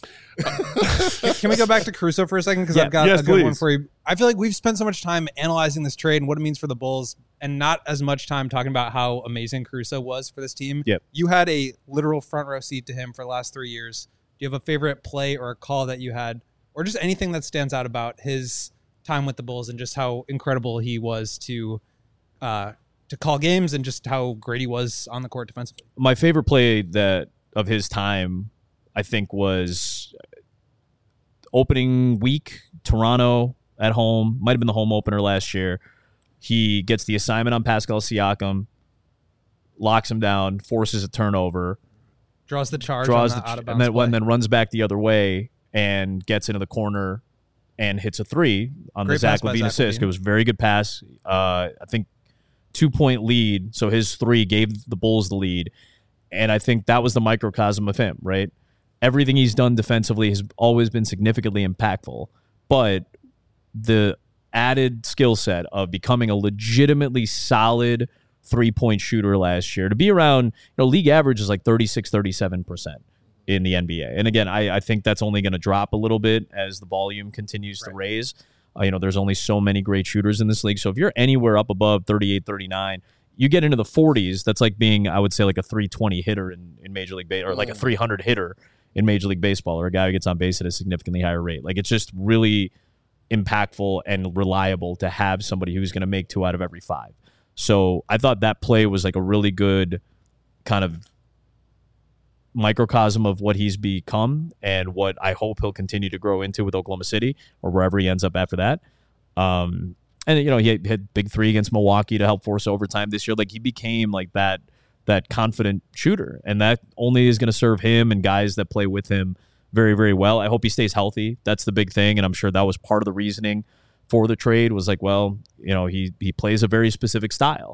Can we go back to Caruso for a second? Because Yeah. I've got Yes, a good one please. for you. I feel like we've spent so much time analyzing this trade and what it means for the Bulls, and not as much time talking about how amazing Caruso was for this team. Yep. You had a literal front row seat to him for the last 3 years. Do you have a favorite play or a call that you had, or just anything that stands out about his time with the Bulls and just how incredible he was to call games and just how great he was on the court defensively? My favorite play that of his time, I think, was opening week, Toronto at home. Might have been the home opener last year. He gets the assignment on Pascal Siakam, locks him down, forces a turnover, Draws the charge on the out of bounds play. and then runs back the other way and gets into the corner and hits a three on Great the Zach pass by LaVine Zach assist. LaVine. It was a very good pass. I think 2-point lead. So his three gave the Bulls the lead. And I think that was the microcosm of him, right? Everything he's done defensively has always been significantly impactful. But the added skill set of becoming a legitimately solid three-point shooter last year, to be around, league average is like 36-37% in the NBA. And again, I think that's only going to drop a little bit as the volume continues to raise. There's only so many great shooters in this league. So if you're anywhere up above 38, 39, you get into the 40s, that's like being, I would say, like a 320 hitter in Major League Baseball, or like a 300 hitter in Major League Baseball, or a guy who gets on base at a significantly higher rate. Like, it's just really impactful and reliable to have somebody who's going to make 2 out of every 5. So I thought that play was like a really good kind of microcosm of what he's become and what I hope he'll continue to grow into with Oklahoma City or wherever he ends up after that. And, he had big 3 against Milwaukee to help force overtime this year. Like, he became like that confident shooter, and that only is going to serve him and guys that play with him very, very well. I hope he stays healthy. That's the big thing, and I'm sure that was part of the reasoning for the trade was like, well, he plays a very specific style.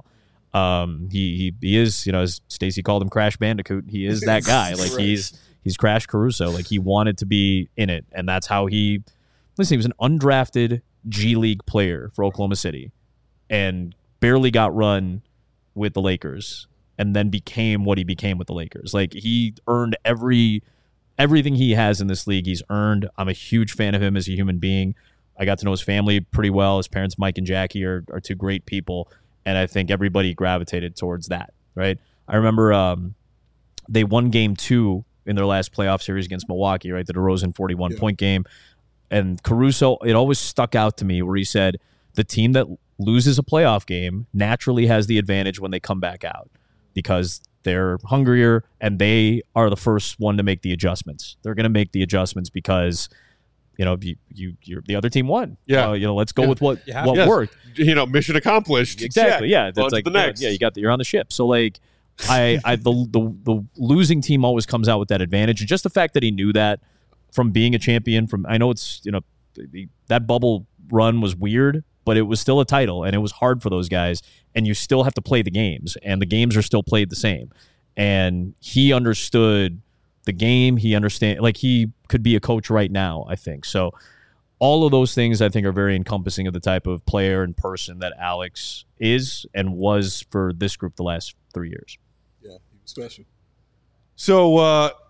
He is, as Stacey called him, Crash Bandicoot. He is that guy. Like, Right. he's Crash Caruso. Like, he wanted to be in it, and that's how he was an undrafted G League player for Oklahoma City and barely got run with the Lakers and then became what he became with the Lakers. Like, he earned everything he has in this league. He's earned. I'm a huge fan of him as a human being. I got to know his family pretty well. His parents, Mike and Jackie, are 2 great people, and I think everybody gravitated towards that, right? I remember they won game 2 in their last playoff series against Milwaukee, right? The DeRozan 41-point game. And Caruso, it always stuck out to me where he said, the team that loses a playoff game naturally has the advantage when they come back out because they're hungrier and they are the first one to make the adjustments. They're going to make the adjustments because, you're the other team won. Yeah. Let's go with what Yes. worked. Mission accomplished. Exactly. Check. Yeah. On That's to like the next. Yeah, you're on the ship. So like the losing team always comes out with that advantage. And just the fact that he knew that from being a champion, I know it's, that bubble run was weird, but it was still a title and it was hard for those guys. And you still have to play the games, and the games are still played the same. And he understood the game. He could be a coach right now, I think. So all of those things I think are very encompassing of the type of player and person that Alex is and was for this group the last 3 years. Yeah, he was special. So,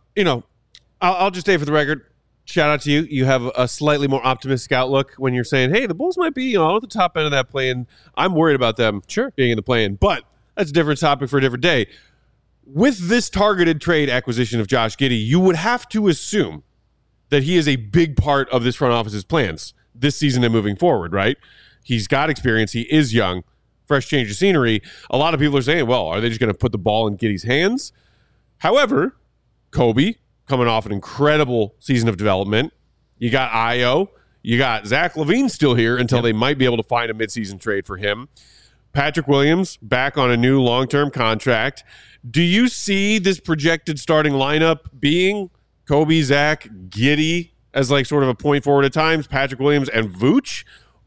I'll just say for the record, shout out to you. You have a slightly more optimistic outlook when you're saying, hey, the Bulls might be at the top end of that play-in. I'm worried about them being in the play-in, but that's a different topic for a different day. With this targeted trade acquisition of Josh Giddey, you would have to assume that he is a big part of this front office's plans this season and moving forward, right? He's got experience. He is young. Fresh change of scenery. A lot of people are saying, well, are they just going to put the ball in Giddey's hands? However, Kobe, coming off an incredible season of development. You got Io. You got Zach LaVine still here until they might be able to find a midseason trade for him. Patrick Williams back on a new long-term contract. Do you see this projected starting lineup being Kobe, Zach, Giddey as like sort of a point forward at times, Patrick Williams, and Vooch?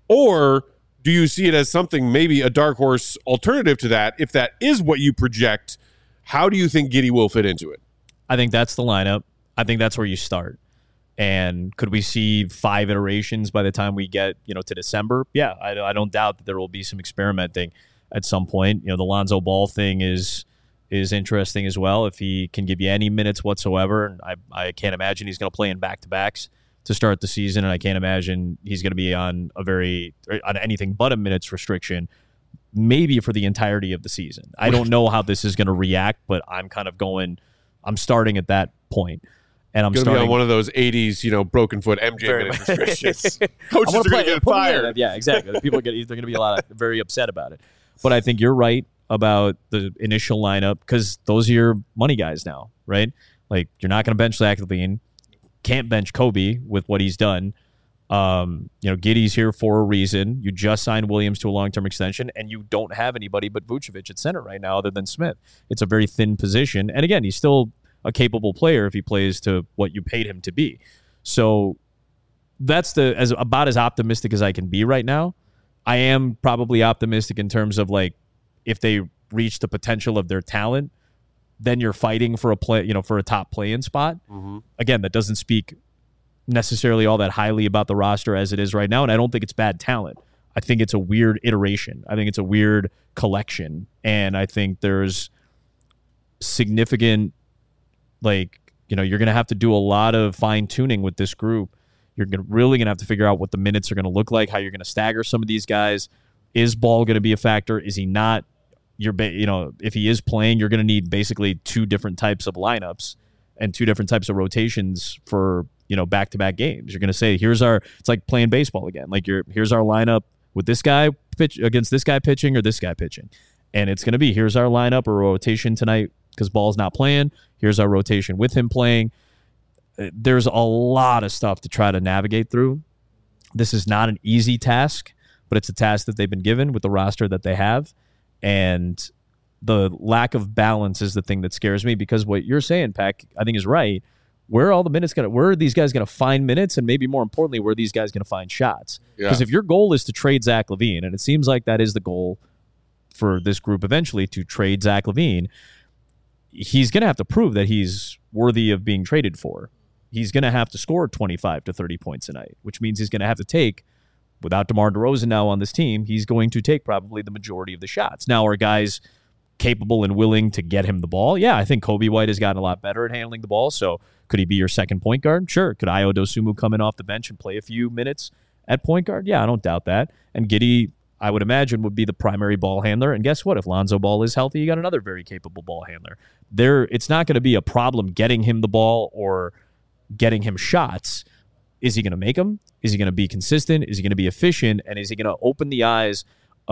Or do you see it as something, maybe a dark horse alternative to that? If that is what you project, how do you think Giddey will fit into it? I think that's the lineup. I think that's where you start. And could we see 5 iterations by the time we get, to December? Yeah, I don't doubt that there will be some experimenting at some point. The Lonzo Ball thing is interesting as well. If he can give you any minutes whatsoever, and I can't imagine he's going to play in back-to-backs to start the season, and I can't imagine he's going to be on anything but a minutes restriction, maybe for the entirety of the season. I don't know how this is going to react, but I'm starting at that point. And I'm starting to be on one of those 80s, broken foot MJ minutes restrictions. Coaches are going to get fired. Yeah, exactly. They're going to be very upset about it. But I think you're right about the initial lineup because those are your money guys now, right? Like, you're not going to bench Zach LaVine. Can't bench Kobe with what he's done. Giddey's here for a reason. You just signed Williams to a long-term extension, and you don't have anybody but Vucevic at center right now other than Smith. It's a very thin position. And again, he's still a capable player if he plays to what you paid him to be. So that's about as optimistic as I can be right now. I am probably optimistic in terms of, like, if they reach the potential of their talent, then you're fighting for a top play-in spot. Mm-hmm. Again, that doesn't speak necessarily all that highly about the roster as it is right now, and I don't think it's bad talent. I think it's a weird iteration. I think it's a weird collection, and I think there's significant, you're going to have to do a lot of fine-tuning with this group. You're really going to have to figure out what the minutes are going to look like, how you're going to stagger some of these guys. Is Ball going to be a factor? Is he not? If he is playing, you're going to need basically 2 different types of lineups and 2 different types of rotations for, back-to-back games. You're going to say, it's like playing baseball again. Like, here's our lineup with this guy pitch against this guy pitching or this guy pitching. And it's going to be, here's our lineup or rotation tonight because Ball's not playing. Here's our rotation with him playing. There's a lot of stuff to try to navigate through. This is not an easy task, but it's a task that they've been given with the roster that they have. And the lack of balance is the thing that scares me because what you're saying, Pack, I think is right. Where are these guys going to find minutes? And maybe more importantly, where are these guys going to find shots? Because if your goal is to trade Zach LaVine, and it seems like that is the goal for this group eventually, to trade Zach LaVine, he's going to have to prove that he's worthy of being traded for. He's going to have to score 25 to 30 points a night, which means he's going to have to take, without DeMar DeRozan now on this team, he's going to take probably the majority of the shots. Now, are guys capable and willing to get him the ball? Yeah, I think Kobe White has gotten a lot better at handling the ball, so could he be your second point guard? Sure. Could Ayo Dosunmu come in off the bench and play a few minutes at point guard? Yeah, I don't doubt that. And Giddey, I would imagine, would be the primary ball handler. And guess what? If Lonzo Ball is healthy, you got another very capable ball handler. It's not going to be a problem getting him the ball or getting him shots. Is he going to make them? Is he going to be consistent? Is he going to be efficient? And is he going to open the eyes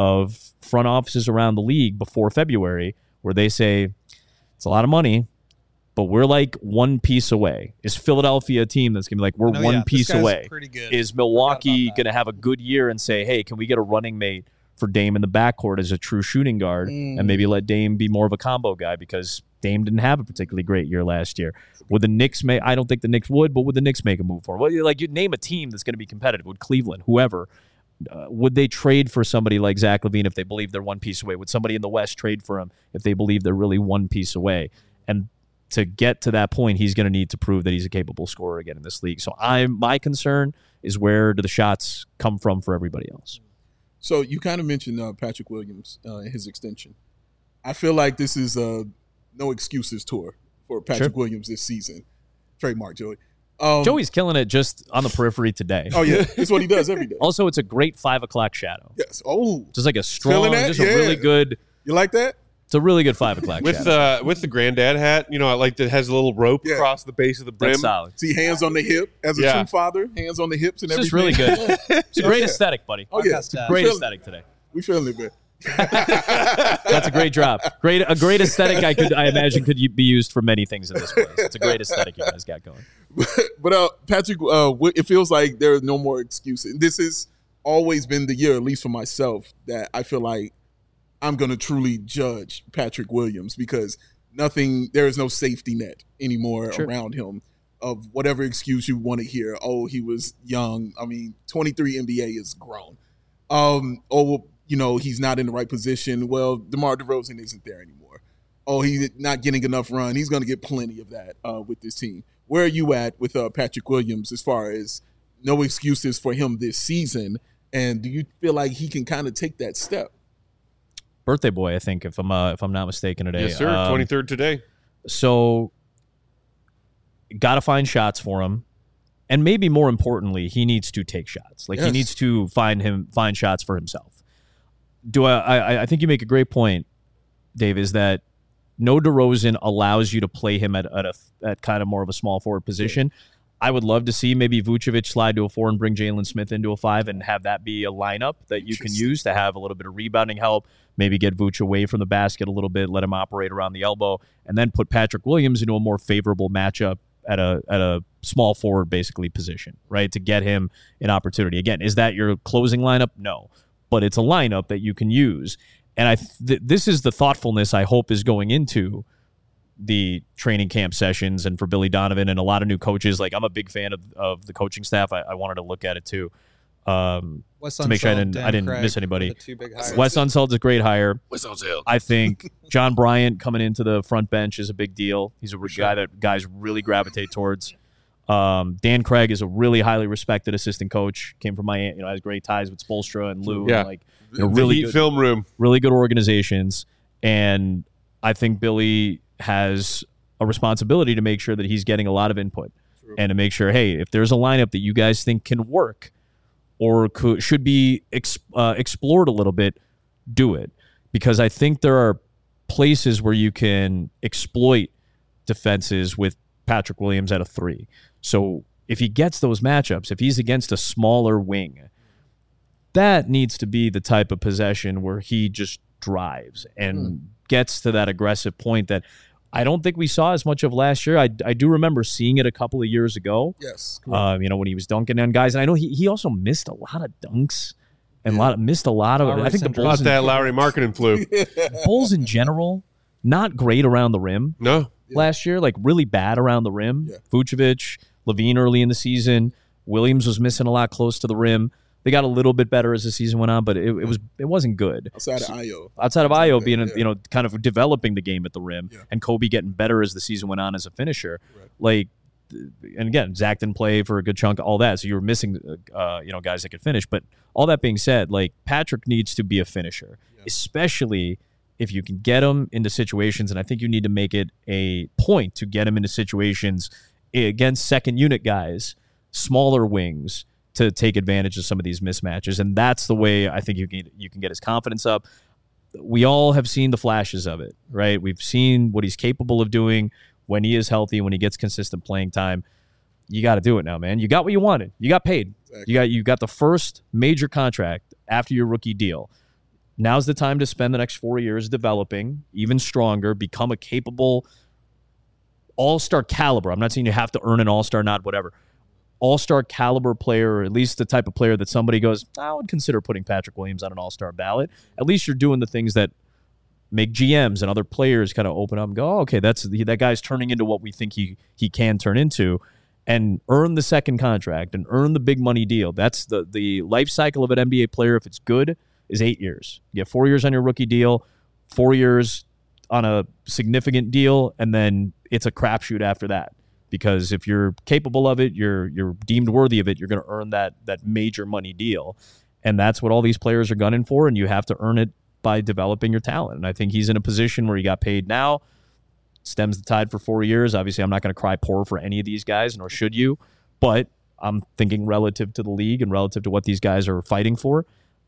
of front offices around the league before February where they say, it's a lot of money, but we're like one piece away? Is Philadelphia a team that's going to be like, we're one piece away? Pretty good. Is Milwaukee going to have a good year and say, hey, can we get a running mate for Dame in the backcourt as a true shooting guard and maybe let Dame be more of a combo guy because Dame didn't have a particularly great year last year? Would the Knicks I don't think the Knicks would, but would the Knicks make a move for him? Well, you name a team that's going to be competitive. Would Cleveland, whoever, would they trade for somebody like Zach LaVine if they believe they're one piece away? Would somebody in the West trade for him if they believe they're really one piece away? And to get to that point, he's going to need to prove that he's a capable scorer again in this league. So my concern is, where do the shots come from for everybody else? So you kind of mentioned Patrick Williams and his extension. I feel like this is a no excuses tour for Patrick Williams this season. Trademark, Joey. Joey's killing it just on the periphery today. Oh, yeah. It's what he does every day. Also, it's a great 5 o'clock shadow. Yes. Oh. Just like a strong, just a really good. You like that? It's a really good 5 o'clock shadow. With the granddad hat, that has a little rope across the base of the brim. That's solid. See, hands on the hip. As a true father, hands on the hips and everything. It's just really good. It's a great aesthetic, buddy. Oh, yeah. It's a great aesthetic today. We feeling it, man. That's a great drop. A great aesthetic. I imagine could be used for many things in this place. It's a great aesthetic you guys got going. But Patrick, it feels like there are no more excuses. This has always been the year, at least for myself, that I feel like I'm going to truly judge Patrick Williams because there is no safety net anymore around him of whatever excuse you want to hear. Oh, he was young. I mean, 23 NBA is grown. He's not in the right position. Well, DeMar DeRozan isn't there anymore. Oh, he's not getting enough run. He's going to get plenty of that with this team. Where are you at with Patrick Williams as far as no excuses for him this season? And do you feel like he can kind of take that step? Birthday boy, I think, if I'm not mistaken today. Yes, sir. 23rd today. So, got to find shots for him. And maybe more importantly, he needs to take shots. Like, he needs to find shots for himself. I think you make a great point, Dave, is that no DeRozan allows you to play him at kind of more of a small forward position. Yeah. I would love to see maybe Vucevic slide to a 4 and bring Jalen Smith into a 5 and have that be a lineup that you can use to have a little bit of rebounding help, maybe get Vuce away from the basket a little bit, let him operate around the elbow, and then put Patrick Williams into a more favorable matchup at a small forward basically position, right, to get him an opportunity. Again, is that your closing lineup? No, but it's a lineup that you can use. And this is the thoughtfulness I hope is going into the training camp sessions and for Billy Donovan and a lot of new coaches. Like, I'm a big fan of the coaching staff. I wanted to look at it too to make sure I didn't miss anybody. Wes Unseld's a great hire. Wes Unseld. I think John Bryant coming into the front bench is a big deal. He's a guy that guys really gravitate towards. Dan Craig is a really highly respected assistant coach. Came from Miami, has great ties with Spoelstra and Lou. Yeah. And really good film room, really good organizations. And I think Billy has a responsibility to make sure that he's getting a lot of input. True. And to make sure, hey, if there's a lineup that you guys think can work or should be explored a little bit, do it. Because I think there are places where you can exploit defenses with Patrick Williams at a 3. So if he gets those matchups, if he's against a smaller wing, that needs to be the type of possession where he just drives and gets to that aggressive point that I don't think we saw as much of last year. I do remember seeing it a couple of years ago. Yes. When he was dunking on guys. And I know he also missed a lot of dunks and missed a lot of it. I think the Bulls... that Lowry marketing flu. Bulls in general, not great around the rim. No. Last year, like really bad around the rim. Yeah. Vucevic, Levine early in the season. Williams was missing a lot close to the rim. They got a little bit better as the season went on, but it wasn't good. Outside of Ayo. Outside of Ayo being, kind of developing the game at the rim, and Kobe getting better as the season went on as a finisher. Right. And again, Zach didn't play for a good chunk, all that, so you were missing, guys that could finish. But all that being said, like, Patrick needs to be a finisher, especially if you can get him into situations, and I think you need to make it a point to get him into situations against second unit guys, smaller wings, to take advantage of some of these mismatches. And that's the way I think you can get his confidence up. We all have seen the flashes of it, right? We've seen what he's capable of doing when he is healthy, when he gets consistent playing time. You got to do it now, man. You got what you wanted. You got paid. Exactly. You got the first major contract after your rookie deal. Now's the time to spend the next 4 years developing even stronger, become a capable all-star caliber. I'm not saying you have to earn an all-star, not whatever. All-star caliber player, or at least the type of player that somebody goes, I would consider putting Patrick Williams on an all-star ballot. At least you're doing the things that make GMs and other players kind of open up and go, okay, that guy's turning into what we think he can turn into, and earn the second contract and earn the big money deal. That's the life cycle of an NBA player, if it's good, is 8 years. You get 4 years on your rookie deal, 4 years on a significant deal, and then it's a crapshoot after that. Because if you're capable of it, you're deemed worthy of it, you're going to earn that major money deal. And that's what all these players are gunning for, and you have to earn it by developing your talent. And I think he's in a position where he got paid now, stems the tide for 4 years. Obviously, I'm not going to cry poor for any of these guys, nor should you. But I'm thinking relative to the league and relative to what these guys are fighting for,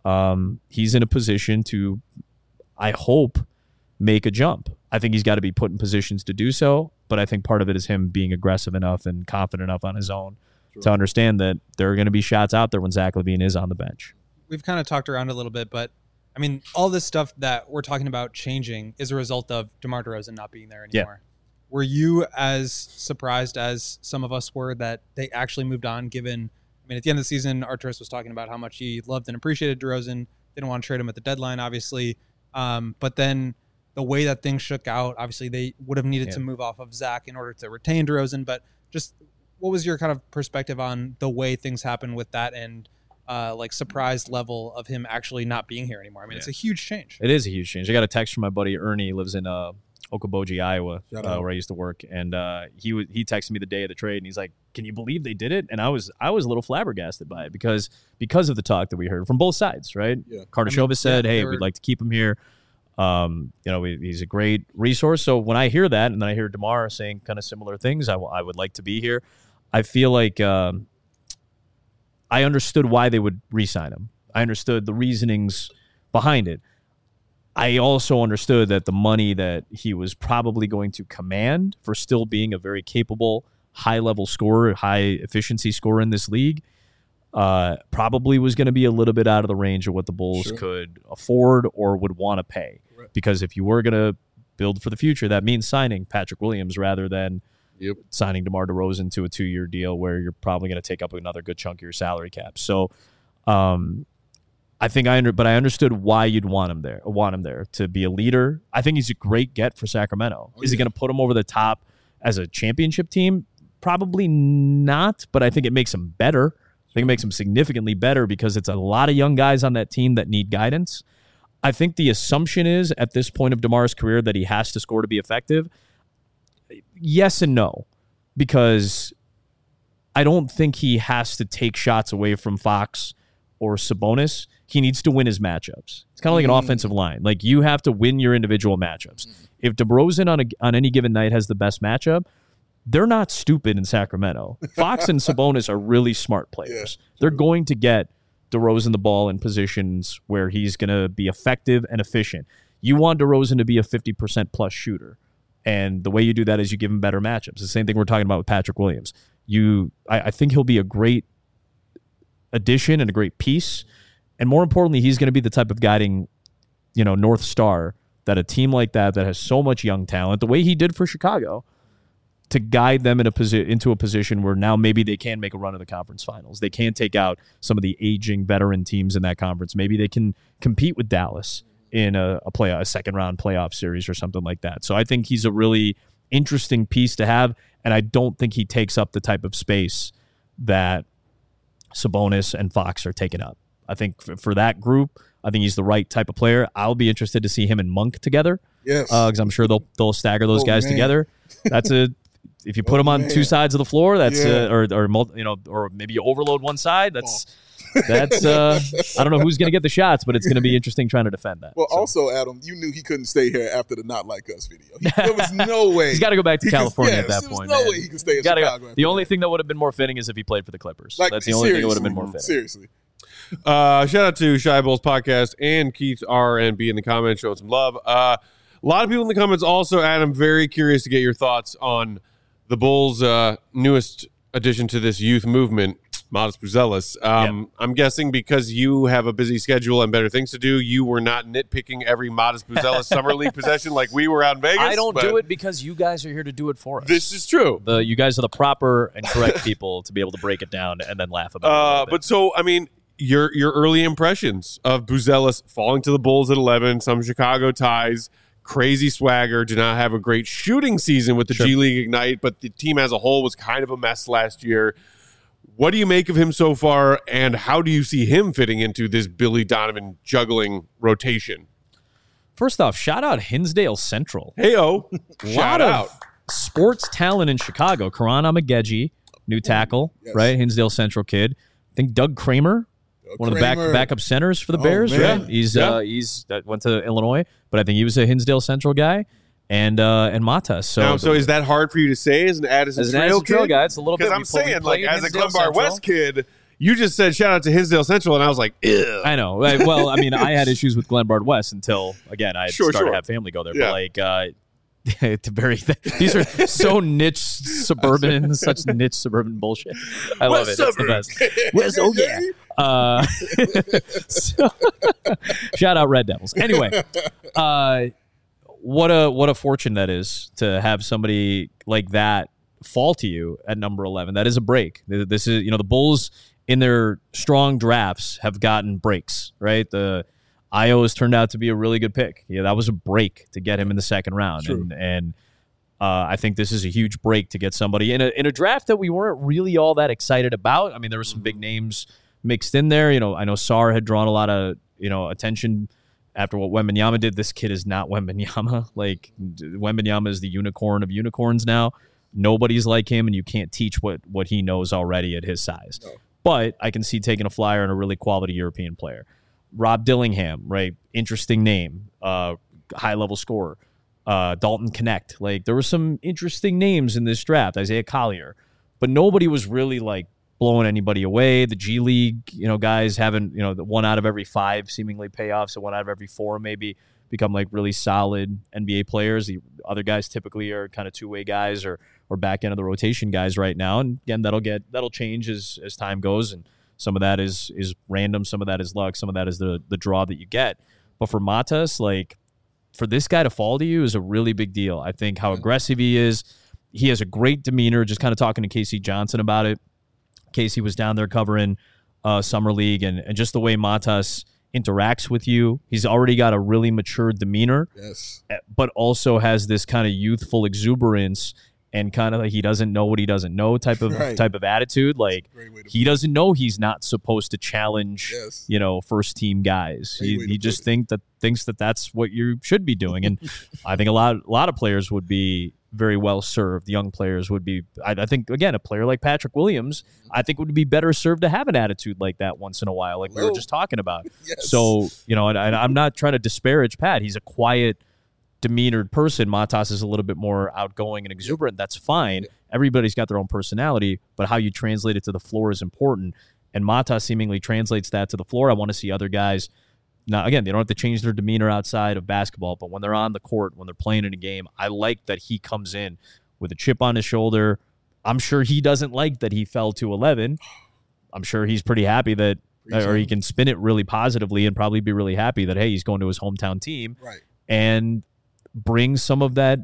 he's in a position to, I hope, make a jump. I think he's got to be put in positions to do so, but I think part of it is him being aggressive enough and confident enough on his own to understand that there are going to be shots out there when Zach LaVine is on the bench. We've kind of talked around a little bit, but I mean, all this stuff that we're talking about changing is a result of DeMar DeRozan not being there anymore. Yeah. Were you as surprised as some of us were that they actually moved on, given, I mean, at the end of the season, Arturas was talking about how much he loved and appreciated DeRozan, didn't want to trade him at the deadline, obviously, but then the way that things shook out, obviously they would have needed to move off of Zach in order to retain DeRozan. But just what was your kind of perspective on the way things happened with that, and like surprised level of him actually not being here anymore. I mean, it's a huge change. It is a huge change. I got a text from my buddy Ernie. He lives in Okoboji, Iowa, where I used to work, and he texted me the day of the trade, and he's like, "Can you believe they did it?" And I was a little flabbergasted by it because of the talk that we heard from both sides, right? Yeah. Kardashev said, "Hey, we'd like to keep him here. He's a great resource." So when I hear that, and then I hear DeMar saying kind of similar things, I would like to be here. I feel like I understood why they would re-sign him. I understood the reasonings behind it. I also understood that the money that he was probably going to command for still being a very capable, high-level scorer, high-efficiency scorer in this league probably was going to be a little bit out of the range of what the Bulls could afford or would want to pay. Right. Because if you were going to build for the future, that means signing Patrick Williams rather than signing DeMar DeRozan to a 2-year deal where you're probably going to take up another good chunk of your salary cap. So I think but I understood why you'd want him there to be a leader. I think he's a great get for Sacramento. Is he going to put him over the top as a championship team? Probably not, but I think it makes him better. I think it makes him significantly better because it's a lot of young guys on that team that need guidance. I think the assumption is at this point of DeMar's career that he has to score to be effective. Yes and no, because I don't think he has to take shots away from Fox or Sabonis. He needs to win his matchups. It's kind of like an offensive line. Like, you have to win your individual matchups. If DeRozan on any given night has the best matchup, they're not stupid in Sacramento. Fox and Sabonis are really smart players. They're going to get DeRozan the ball in positions where he's going to be effective and efficient. You want DeRozan to be a 50% plus shooter. And the way you do that is you give him better matchups. The same thing we're talking about with Patrick Williams. I think he'll be a great addition and a great piece. And more importantly, he's going to be the type of guiding, North Star that a team like that has so much young talent, the way he did for Chicago, to guide them into a position where now maybe they can make a run of the conference finals. They can take out some of the aging veteran teams in that conference. Maybe they can compete with Dallas in a second-round playoff series or something like that. So I think he's a really interesting piece to have, and I don't think he takes up the type of space that Sabonis and Fox are taking up. I think for that group, I think he's the right type of player. I'll be interested to see him and Monk together. Yes, because I'm sure they'll stagger those guys together. If you put them on two sides of the floor, that's or maybe you overload one side. That's I don't know who's going to get the shots, but it's going to be interesting trying to defend that. Well, also, Adam, you knew he couldn't stay here after the Not Like Us video. There was no way. He's got to go back to California at that point. There's no way he could stay in Chicago. The only thing that would have been more fitting is if he played for the Clippers. That's the only thing that would have been more fitting. Seriously. Shout out to Shy Bulls Podcast and Keith R and B in the comments showing some love. A lot of people in the comments also, Adam, very curious to get your thoughts on the Bulls' newest addition to this youth movement, Modest Buzelis. I'm guessing because you have a busy schedule and better things to do, you were not nitpicking every Modest Buzelis Summer League possession like we were out in Vegas. I don't do it because you guys are here to do it for us. This is true. You guys are the proper and correct people to be able to break it down and then laugh about it. But so, I mean, your early impressions of Buzelis falling to the Bulls at 11, some Chicago ties, crazy swagger, did not have a great shooting season with the G League Ignite, but the team as a whole was kind of a mess last year. What do you make of him so far, and how do you see him fitting into this Billy Donovan juggling rotation? First off, shout out Hinsdale Central. Hey-o. Shout out. Sports talent in Chicago. Karan Amageji, new tackle, right? Hinsdale Central kid. I think Doug Kramer, one of the backup centers for the Bears, right? He's went to Illinois, but I think he was a Hinsdale Central guy. And Matas. So is that hard for you to say as an Addison Trail guy? It's a little bit. Because I'm saying, like, as a Glenbard West kid, you just said shout out to Hinsdale Central, and I was like, ew. I know. Well, I mean, I had issues with Glenbard West until, again, I started to have family go there. Yeah. But these are so niche suburban, such niche suburban bullshit. I love it. It's the best. Shout out Red Devils. Anyway, what a fortune that is to have somebody like that fall to you at number 11. That is a break. This is, the Bulls in their strong drafts have gotten breaks, right? The Io has turned out to be a really good pick. Yeah, that was a break to get him in the second round. And I think this is a huge break to get somebody in a draft that we weren't really all that excited about. I mean, there were some big names mixed in there. You know, I know Sarr had drawn a lot of, attention after what Wembanyama did. This kid is not Wembanyama. Like, Wembanyama is the unicorn of unicorns now. Nobody's like him, and you can't teach what he knows already at his size. No. But I can see taking a flyer on a really quality European player. Rob Dillingham, right? Interesting name. High-level scorer. Dalton Connect. Like, there were some interesting names in this draft. Isaiah Collier. But nobody was really, like, blowing anybody away. The G League, guys haven't, the 1 out of every 5 seemingly pay off, so 1 out of every 4 maybe become like really solid NBA players. The other guys typically are kind of two-way guys or back end of the rotation guys right now. And again, that'll change as time goes. And some of that is random, some of that is luck, some of that is the draw that you get. But for Matas, like, for this guy to fall to you is a really big deal. I think how aggressive he is. He has a great demeanor. Just kind of talking to Casey Johnson about it. Casey was down there covering Summer League, and just the way Matas interacts with you. He's already got a really mature demeanor, yes, but also has this kind of youthful exuberance and kind of like he doesn't know what he doesn't know type of attitude. Like, he doesn't know he's not supposed to challenge, first team guys. He just thinks that that's what you should be doing. And I think a lot of players would be very well served. Young players would be. I think, again, a player like Patrick Williams, I think would be better served to have an attitude like that once in a while, like we were just talking about. Yes. So, and I'm not trying to disparage Pat. He's a quiet, demeanored person. Matas is a little bit more outgoing and exuberant. That's fine. Everybody's got their own personality, but how you translate it to the floor is important. And Matas seemingly translates that to the floor. I want to see other guys. Now, again, they don't have to change their demeanor outside of basketball, but when they're on the court, when they're playing in a game, I like that he comes in with a chip on his shoulder. I'm sure he doesn't like that he fell to 11. I'm sure he's pretty happy that, or he can spin it really positively and probably be really happy that, hey, he's going to his hometown team. Right. And bring some of that,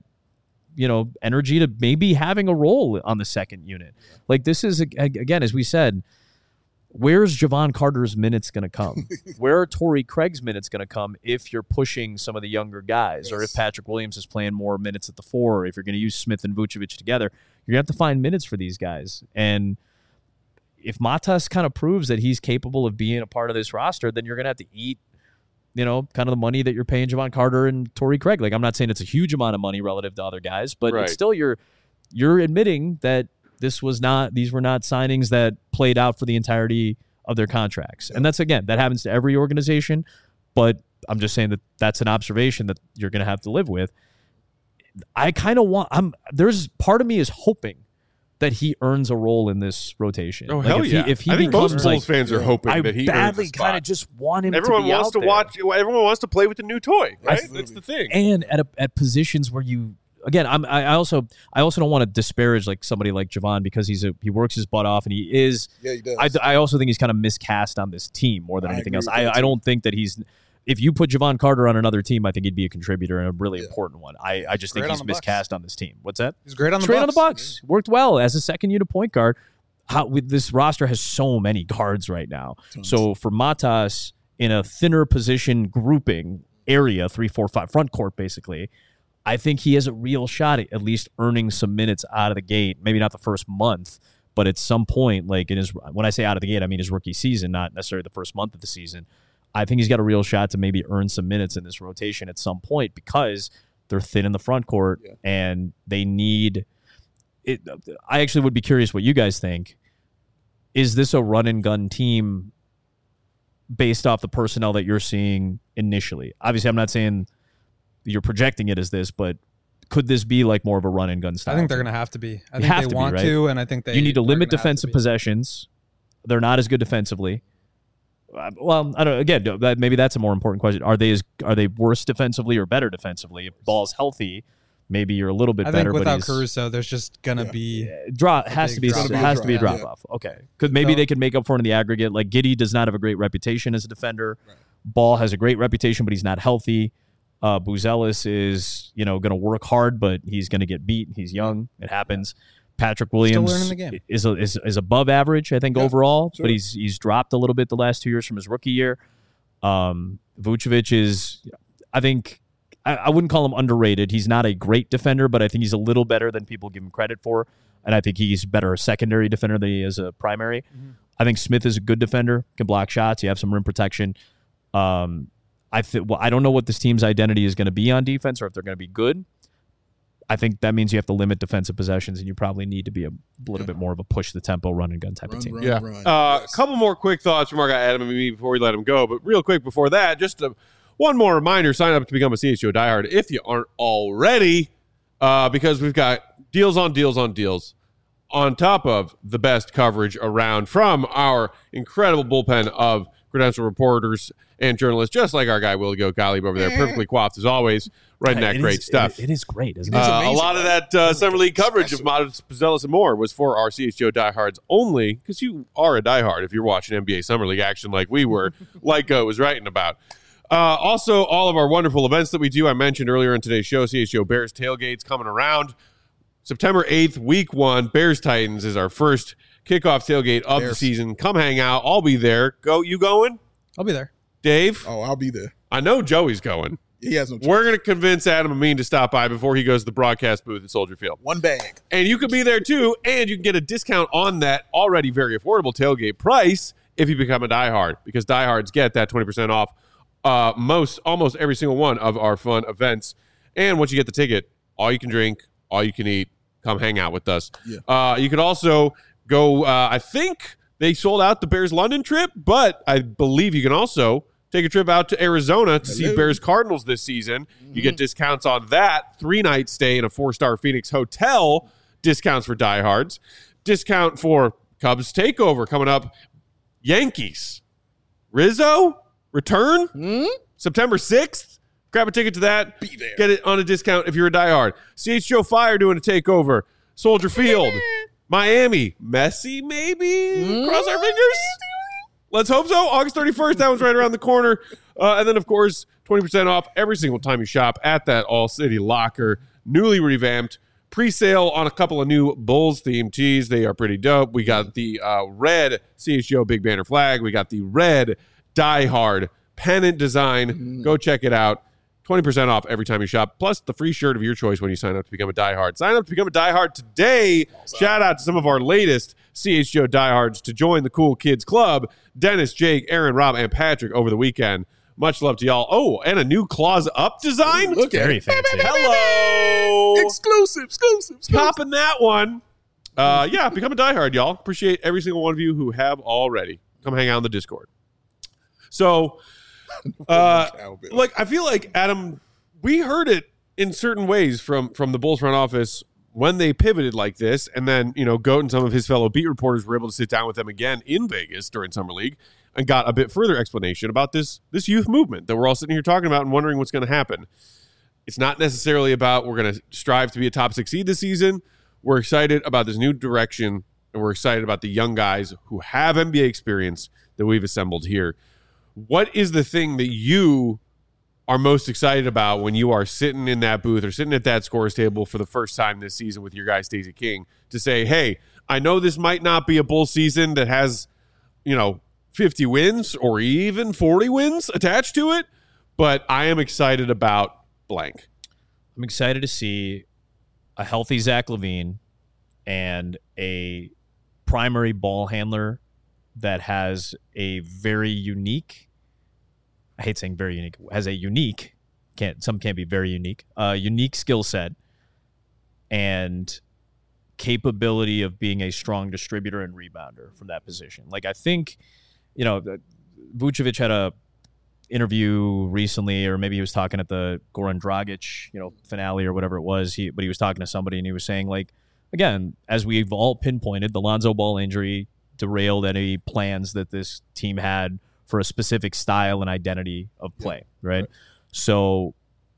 energy to maybe having a role on the second unit. Yeah. Like, this is, again, as we said, where's Javon Carter's minutes going to come? Where are Torrey Craig's minutes going to come if you're pushing some of the younger guys, or if Patrick Williams is playing more minutes at the 4, or if you're going to use Smith and Vucevic together? You're going to have to find minutes for these guys. And if Matas kind of proves that he's capable of being a part of this roster, then you're going to have to eat kind of the money that you're paying Javon Carter and Torrey Craig. Like, I'm not saying it's a huge amount of money relative to other guys, but it's still you're admitting that these were not signings that played out for the entirety of their contracts. And that's, again, that happens to every organization, but I'm just saying that that's an observation that you're going to have to live with. I kind of there's part of me is hoping that he earns a role in this rotation. Oh, like hell yeah. If he I think most Bulls fans are hoping that he badly kind of just want him everyone to be wants out to there. watch. Everyone wants to play with the new toy, right? Absolutely. That's the thing. And at positions where you, again, I also don't want to disparage like somebody like Javon because he works his butt off and he is. Yeah, he does. I also think he's kind of miscast on this team more than anything else. I don't think that he's. If you put Javon Carter on another team, I think he'd be a contributor and a really important one. I just think he's miscast on this team. What's that? He's great on the Bucks. Great on the Bucks. Worked well as a second unit point guard. This roster has so many guards right now. Tons. So for Matas in a thinner position grouping area, 3, 4, 5 front court basically, I think he has a real shot at least earning some minutes out of the gate. Maybe not the first month, but at some point, like when I say out of the gate, I mean his rookie season, not necessarily the first month of the season. I think he's got a real shot to maybe earn some minutes in this rotation at some point because they're thin in the front court and they need it. I actually would be curious what you guys think. Is this a run and gun team based off the personnel that you're seeing initially? Obviously, I'm not saying you're projecting it as this, but could this be like more of a run and gun style? I think they're going to have to be. I think they want to, and I think you need to limit defensive possessions. They're not as good defensively. Well, I don't know. Again, maybe that's a more important question. Are they worse defensively or better defensively? If Ball's healthy, maybe you're a little bit better. I think without Caruso, there's just gonna be has to be a drop off. Okay, because maybe they could make up for it in the aggregate. Like Giddey does not have a great reputation as a defender. Right. Ball has a great reputation, but he's not healthy. Buzelis is going to work hard, but he's going to get beat. He's young. It happens. Patrick Williams still learning the game. is above average, I think, overall, but he's dropped a little bit the last 2 years from his rookie year. Vucevic is, I think, I wouldn't call him underrated. He's not a great defender, but I think he's a little better than people give him credit for, and I think he's better a secondary defender than he is a primary. I think Smith is a good defender, can block shots. You have some rim protection. I don't know what this team's identity is going to be on defense or if they're going to be good. I think that means you have to limit defensive possessions, and you probably need to be a little bit more of a push the tempo, run and gun type of team. A couple more quick thoughts from our guy Adam and me before we let him go. But real quick before that, just one more reminder: sign up to become a CHGO diehard if you aren't already, because we've got deals on deals on deals, on top of the best coverage around from our incredible bullpen of credentialed reporters and journalists, just like our guy Willie Goat Gottlieb over there, perfectly coiffed as always, writing that great stuff. It is great, isn't it? it? A lot of that Summer League coverage of Modest, Pizzellis, and more was for our CHGO diehards only, because you are a diehard if you're watching NBA Summer League action like we were, like Goat was writing about. Also, all of our wonderful events that we do, I mentioned earlier in today's show, CHGO Bears Tailgates coming around. September 8th, week 1, Bears-Titans is our first kickoff tailgate of the season. Come hang out. I'll be there. Goat, you going? I'll be there. Dave? Oh, I'll be there. I know Joey's going. He has no choice. We're going to convince Adam Amin to stop by before he goes to the broadcast booth at Soldier Field. One bag. And you could be there too, and you can get a discount on that already very affordable tailgate price if you become a diehard, because diehards get that 20% off almost every single one of our fun events. And once you get the ticket, all you can drink, all you can eat, come hang out with us. Yeah. You could also go, I think they sold out the Bears London trip, but I believe you can also take a trip out to Arizona to see Bears Cardinals this season. You get discounts on that. 3-night stay in a 4-star Phoenix hotel. Discounts for diehards. Discount for Cubs takeover coming up. Yankees. Rizzo return September 6th. Grab a ticket to that. Be there. Get it on a discount if you're a diehard. CHGO Fire doing a takeover. Soldier Field. Miami. Messi maybe? Cross our fingers. Let's hope so. August 31st, that one's right around the corner. And then, of course, 20% off every single time you shop at that All-City Locker. Newly revamped. Pre-sale on a couple of new Bulls-themed tees. They are pretty dope. We got the red CHGO Big Banner flag. We got the red Die Hard pennant design. Go check it out. 20% off every time you shop, plus the free shirt of your choice when you sign up to become a diehard. Sign up to become a diehard today. Shout out to some of our latest CHGO diehards to join the Cool Kids Club. Dennis, Jake, Aaron, Rob, and Patrick over the weekend. Much love to y'all. Oh, and a new Claws Up design. Look at Very it. fancy. Hello. Exclusive. Popping that one. Yeah, become a diehard, y'all. Appreciate every single one of you who have already. Come hang out in the Discord. So... I feel like, Adam, we heard it in certain ways from the Bulls front office when they pivoted like this, and then, Goat and some of his fellow beat reporters were able to sit down with them again in Vegas during Summer League and got a bit further explanation about this youth movement that we're all sitting here talking about and wondering what's going to happen. It's not necessarily about we're going to strive to be a top 6 seed this season. We're excited about this new direction, and we're excited about the young guys who have NBA experience that we've assembled here. What is the thing that you are most excited about when you are sitting in that booth or sitting at that scores table for the first time this season with your guy Stacey King to say, hey, I know this might not be a Bull season that has, 50 wins or even 40 wins attached to it, but I am excited about blank. I'm excited to see a healthy Zach LaVine and a primary ball handler that has a very unique, I hate saying very unique, has a unique, some can't be very unique, unique skill set and capability of being a strong distributor and rebounder from that position. Like, I think, Vucevic had a interview recently, or maybe he was talking at the Goran Dragic, finale or whatever it was. But he was talking to somebody and he was saying, like, again, as we've all pinpointed, the Lonzo Ball injury derailed any plans that this team had for a specific style and identity of play, right? So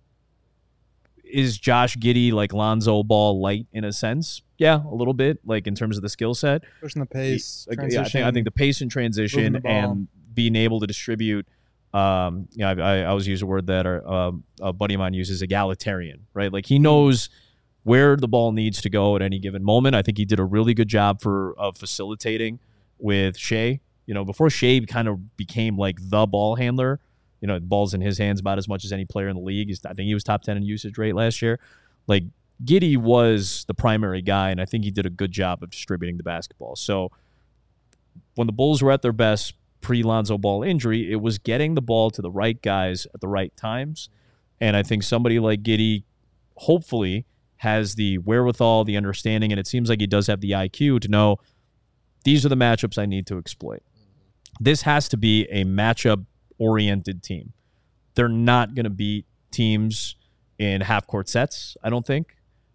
is Josh Giddey like Lonzo Ball light in a sense? Yeah, a little bit, like in terms of the skill set. Pushing the pace, I think the pace and transition and being able to distribute. I always use a word that a buddy of mine uses, egalitarian, right? Like he knows where the ball needs to go at any given moment. I think he did a really good job of facilitating with Shea. Before Shea kind of became like the ball handler, ball's in his hands about as much as any player in the league. I think he was top 10 in usage rate last year. Like Giddey was the primary guy, and I think he did a good job of distributing the basketball. So when the Bulls were at their best pre-Lonzo Ball injury, it was getting the ball to the right guys at the right times. And I think somebody like Giddey hopefully has the wherewithal, the understanding, and it seems like he does have the IQ to know these are the matchups I need to exploit. This has to be a matchup-oriented team. They're not going to beat teams in half-court sets, I don't think.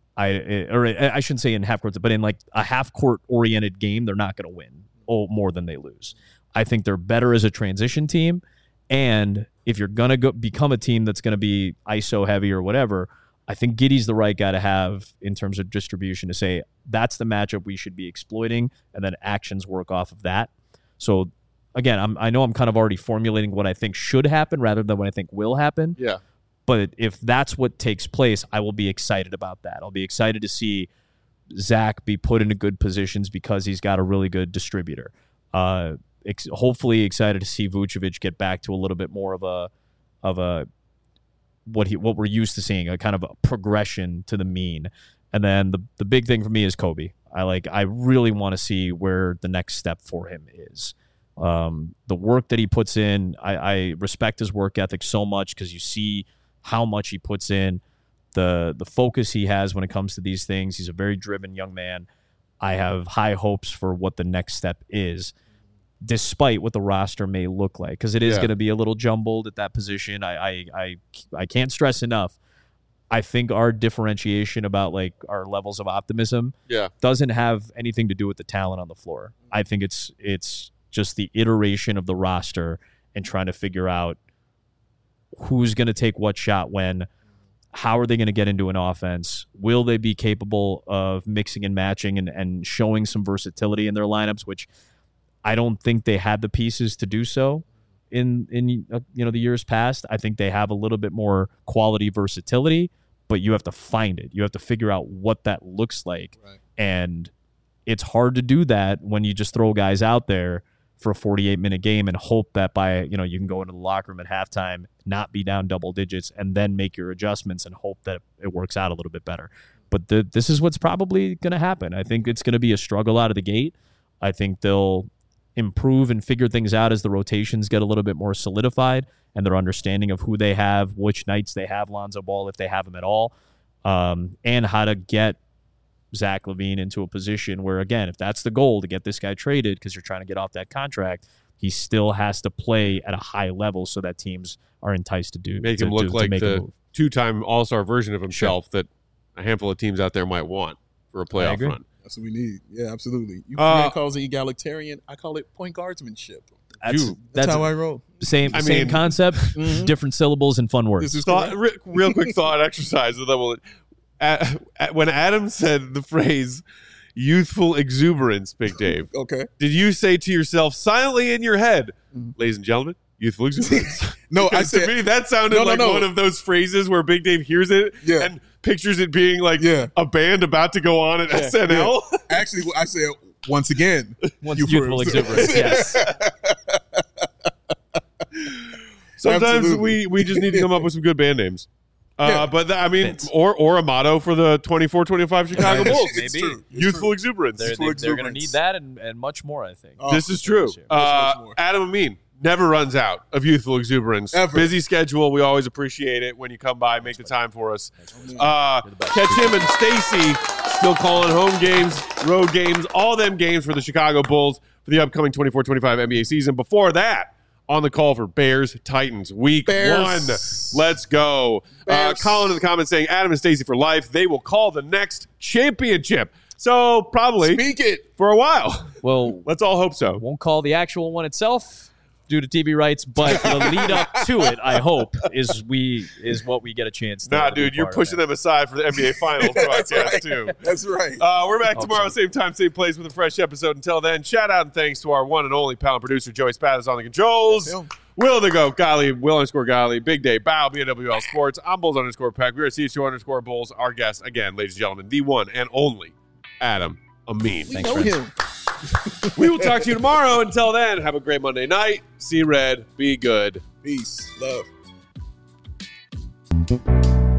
I shouldn't say in half-court, but in like a half-court-oriented game, they're not going to win more than they lose. I think they're better as a transition team, and if you're going to become a team that's going to be ISO heavy or whatever, I think Giddey's the right guy to have in terms of distribution to say that's the matchup we should be exploiting, and then actions work off of that. So, again, I know I'm kind of already formulating what I think should happen rather than what I think will happen. Yeah. But if that's what takes place, I will be excited about that. I'll be excited to see Zach be put into good positions because he's got a really good distributor. Hopefully excited to see Vucevic get back to a little bit more of a what we're used to seeing, a kind of a progression to the mean. And then the big thing for me is Kobe. I really want to see where the next step for him is. The work that he puts in, I respect his work ethic so much because you see how much he puts in, the focus he has when it comes to these things. He's a very driven young man. I have high hopes for what the next step is, despite what the roster may look like, because it is going to be a little jumbled at that position. I can't stress enough. I think our differentiation about like our levels of optimism doesn't have anything to do with the talent on the floor. I think it's just the iteration of the roster and trying to figure out who's going to take what shot when, how are they going to get into an offense? Will they be capable of mixing and matching and showing some versatility in their lineups, which I don't think they had the pieces to do so in the years past. I think they have a little bit more quality versatility, but you have to find it. You have to figure out what that looks like. Right. And it's hard to do that when you just throw guys out there for a 48-minute game and hope that by, you can go into the locker room at halftime, not be down double digits, and then make your adjustments and hope that it works out a little bit better. But this is what's probably going to happen. I think it's going to be a struggle out of the gate. I think they'll improve and figure things out as the rotations get a little bit more solidified and their understanding of who they have, which nights they have Lonzo Ball, if they have him at all, and how to get Zach LaVine into a position where, again, if that's the goal, to get this guy traded because you're trying to get off that contract, he still has to play at a high level so that teams are enticed to make him look like the two-time All-Star version of himself that a handful of teams out there might want for a playoff run. That's what we need. Yeah, absolutely. You calls it egalitarian. I call it point guardsmanship. That's how I roll. Same concept, different syllables and fun words. This is real quick thought exercise. When Adam said the phrase youthful exuberance, Big Dave, okay, did you say to yourself silently in your head, ladies and gentlemen, youthful exuberance? No, I said, to me that sounded one of those phrases where Big Dave hears it and pictures it being like a band about to go on at SNL. Yeah. Actually, I said once again, youthful exuberance. Yes. Sometimes we just need to come up with some good band names. But or a motto for the 24-25 Chicago Bulls. Maybe. Youthful exuberance. They're going to need that and much more, I think. This is true. Adam Amin never runs out of youthful exuberance. Ever. Busy schedule. We always appreciate it when you come by, make the time for us. Catch him and Stacy still calling home games, road games, all them games for the Chicago Bulls for the upcoming 24-25 NBA season. Before that, on the call for Bears-Titans Week 1. Let's go. Colin in the comments saying Adam and Stacey for life. They will call the next championship. So probably speak it for a while. Well, let's all hope so. Won't call the actual one itself due to TV rights, but the lead up to it, I hope, is what we get a chance to. Nah, dude, you're pushing them aside for the NBA Finals broadcast too. That's right. We're back tomorrow, same time, same place, with a fresh episode. Until then, shout out and thanks to our one and only pal and producer Joey Spathis on the controls. Will the Goat Golly, Will_Golly, Big Day Bow, BNWL Sports. I'm Bulls_Pack. We are CH2_Bulls. Our guest again, ladies and gentlemen, the one and only Adam Amin. We know him. We will talk to you tomorrow. Until then, have a great Monday night. See red. Be good. Peace. Love.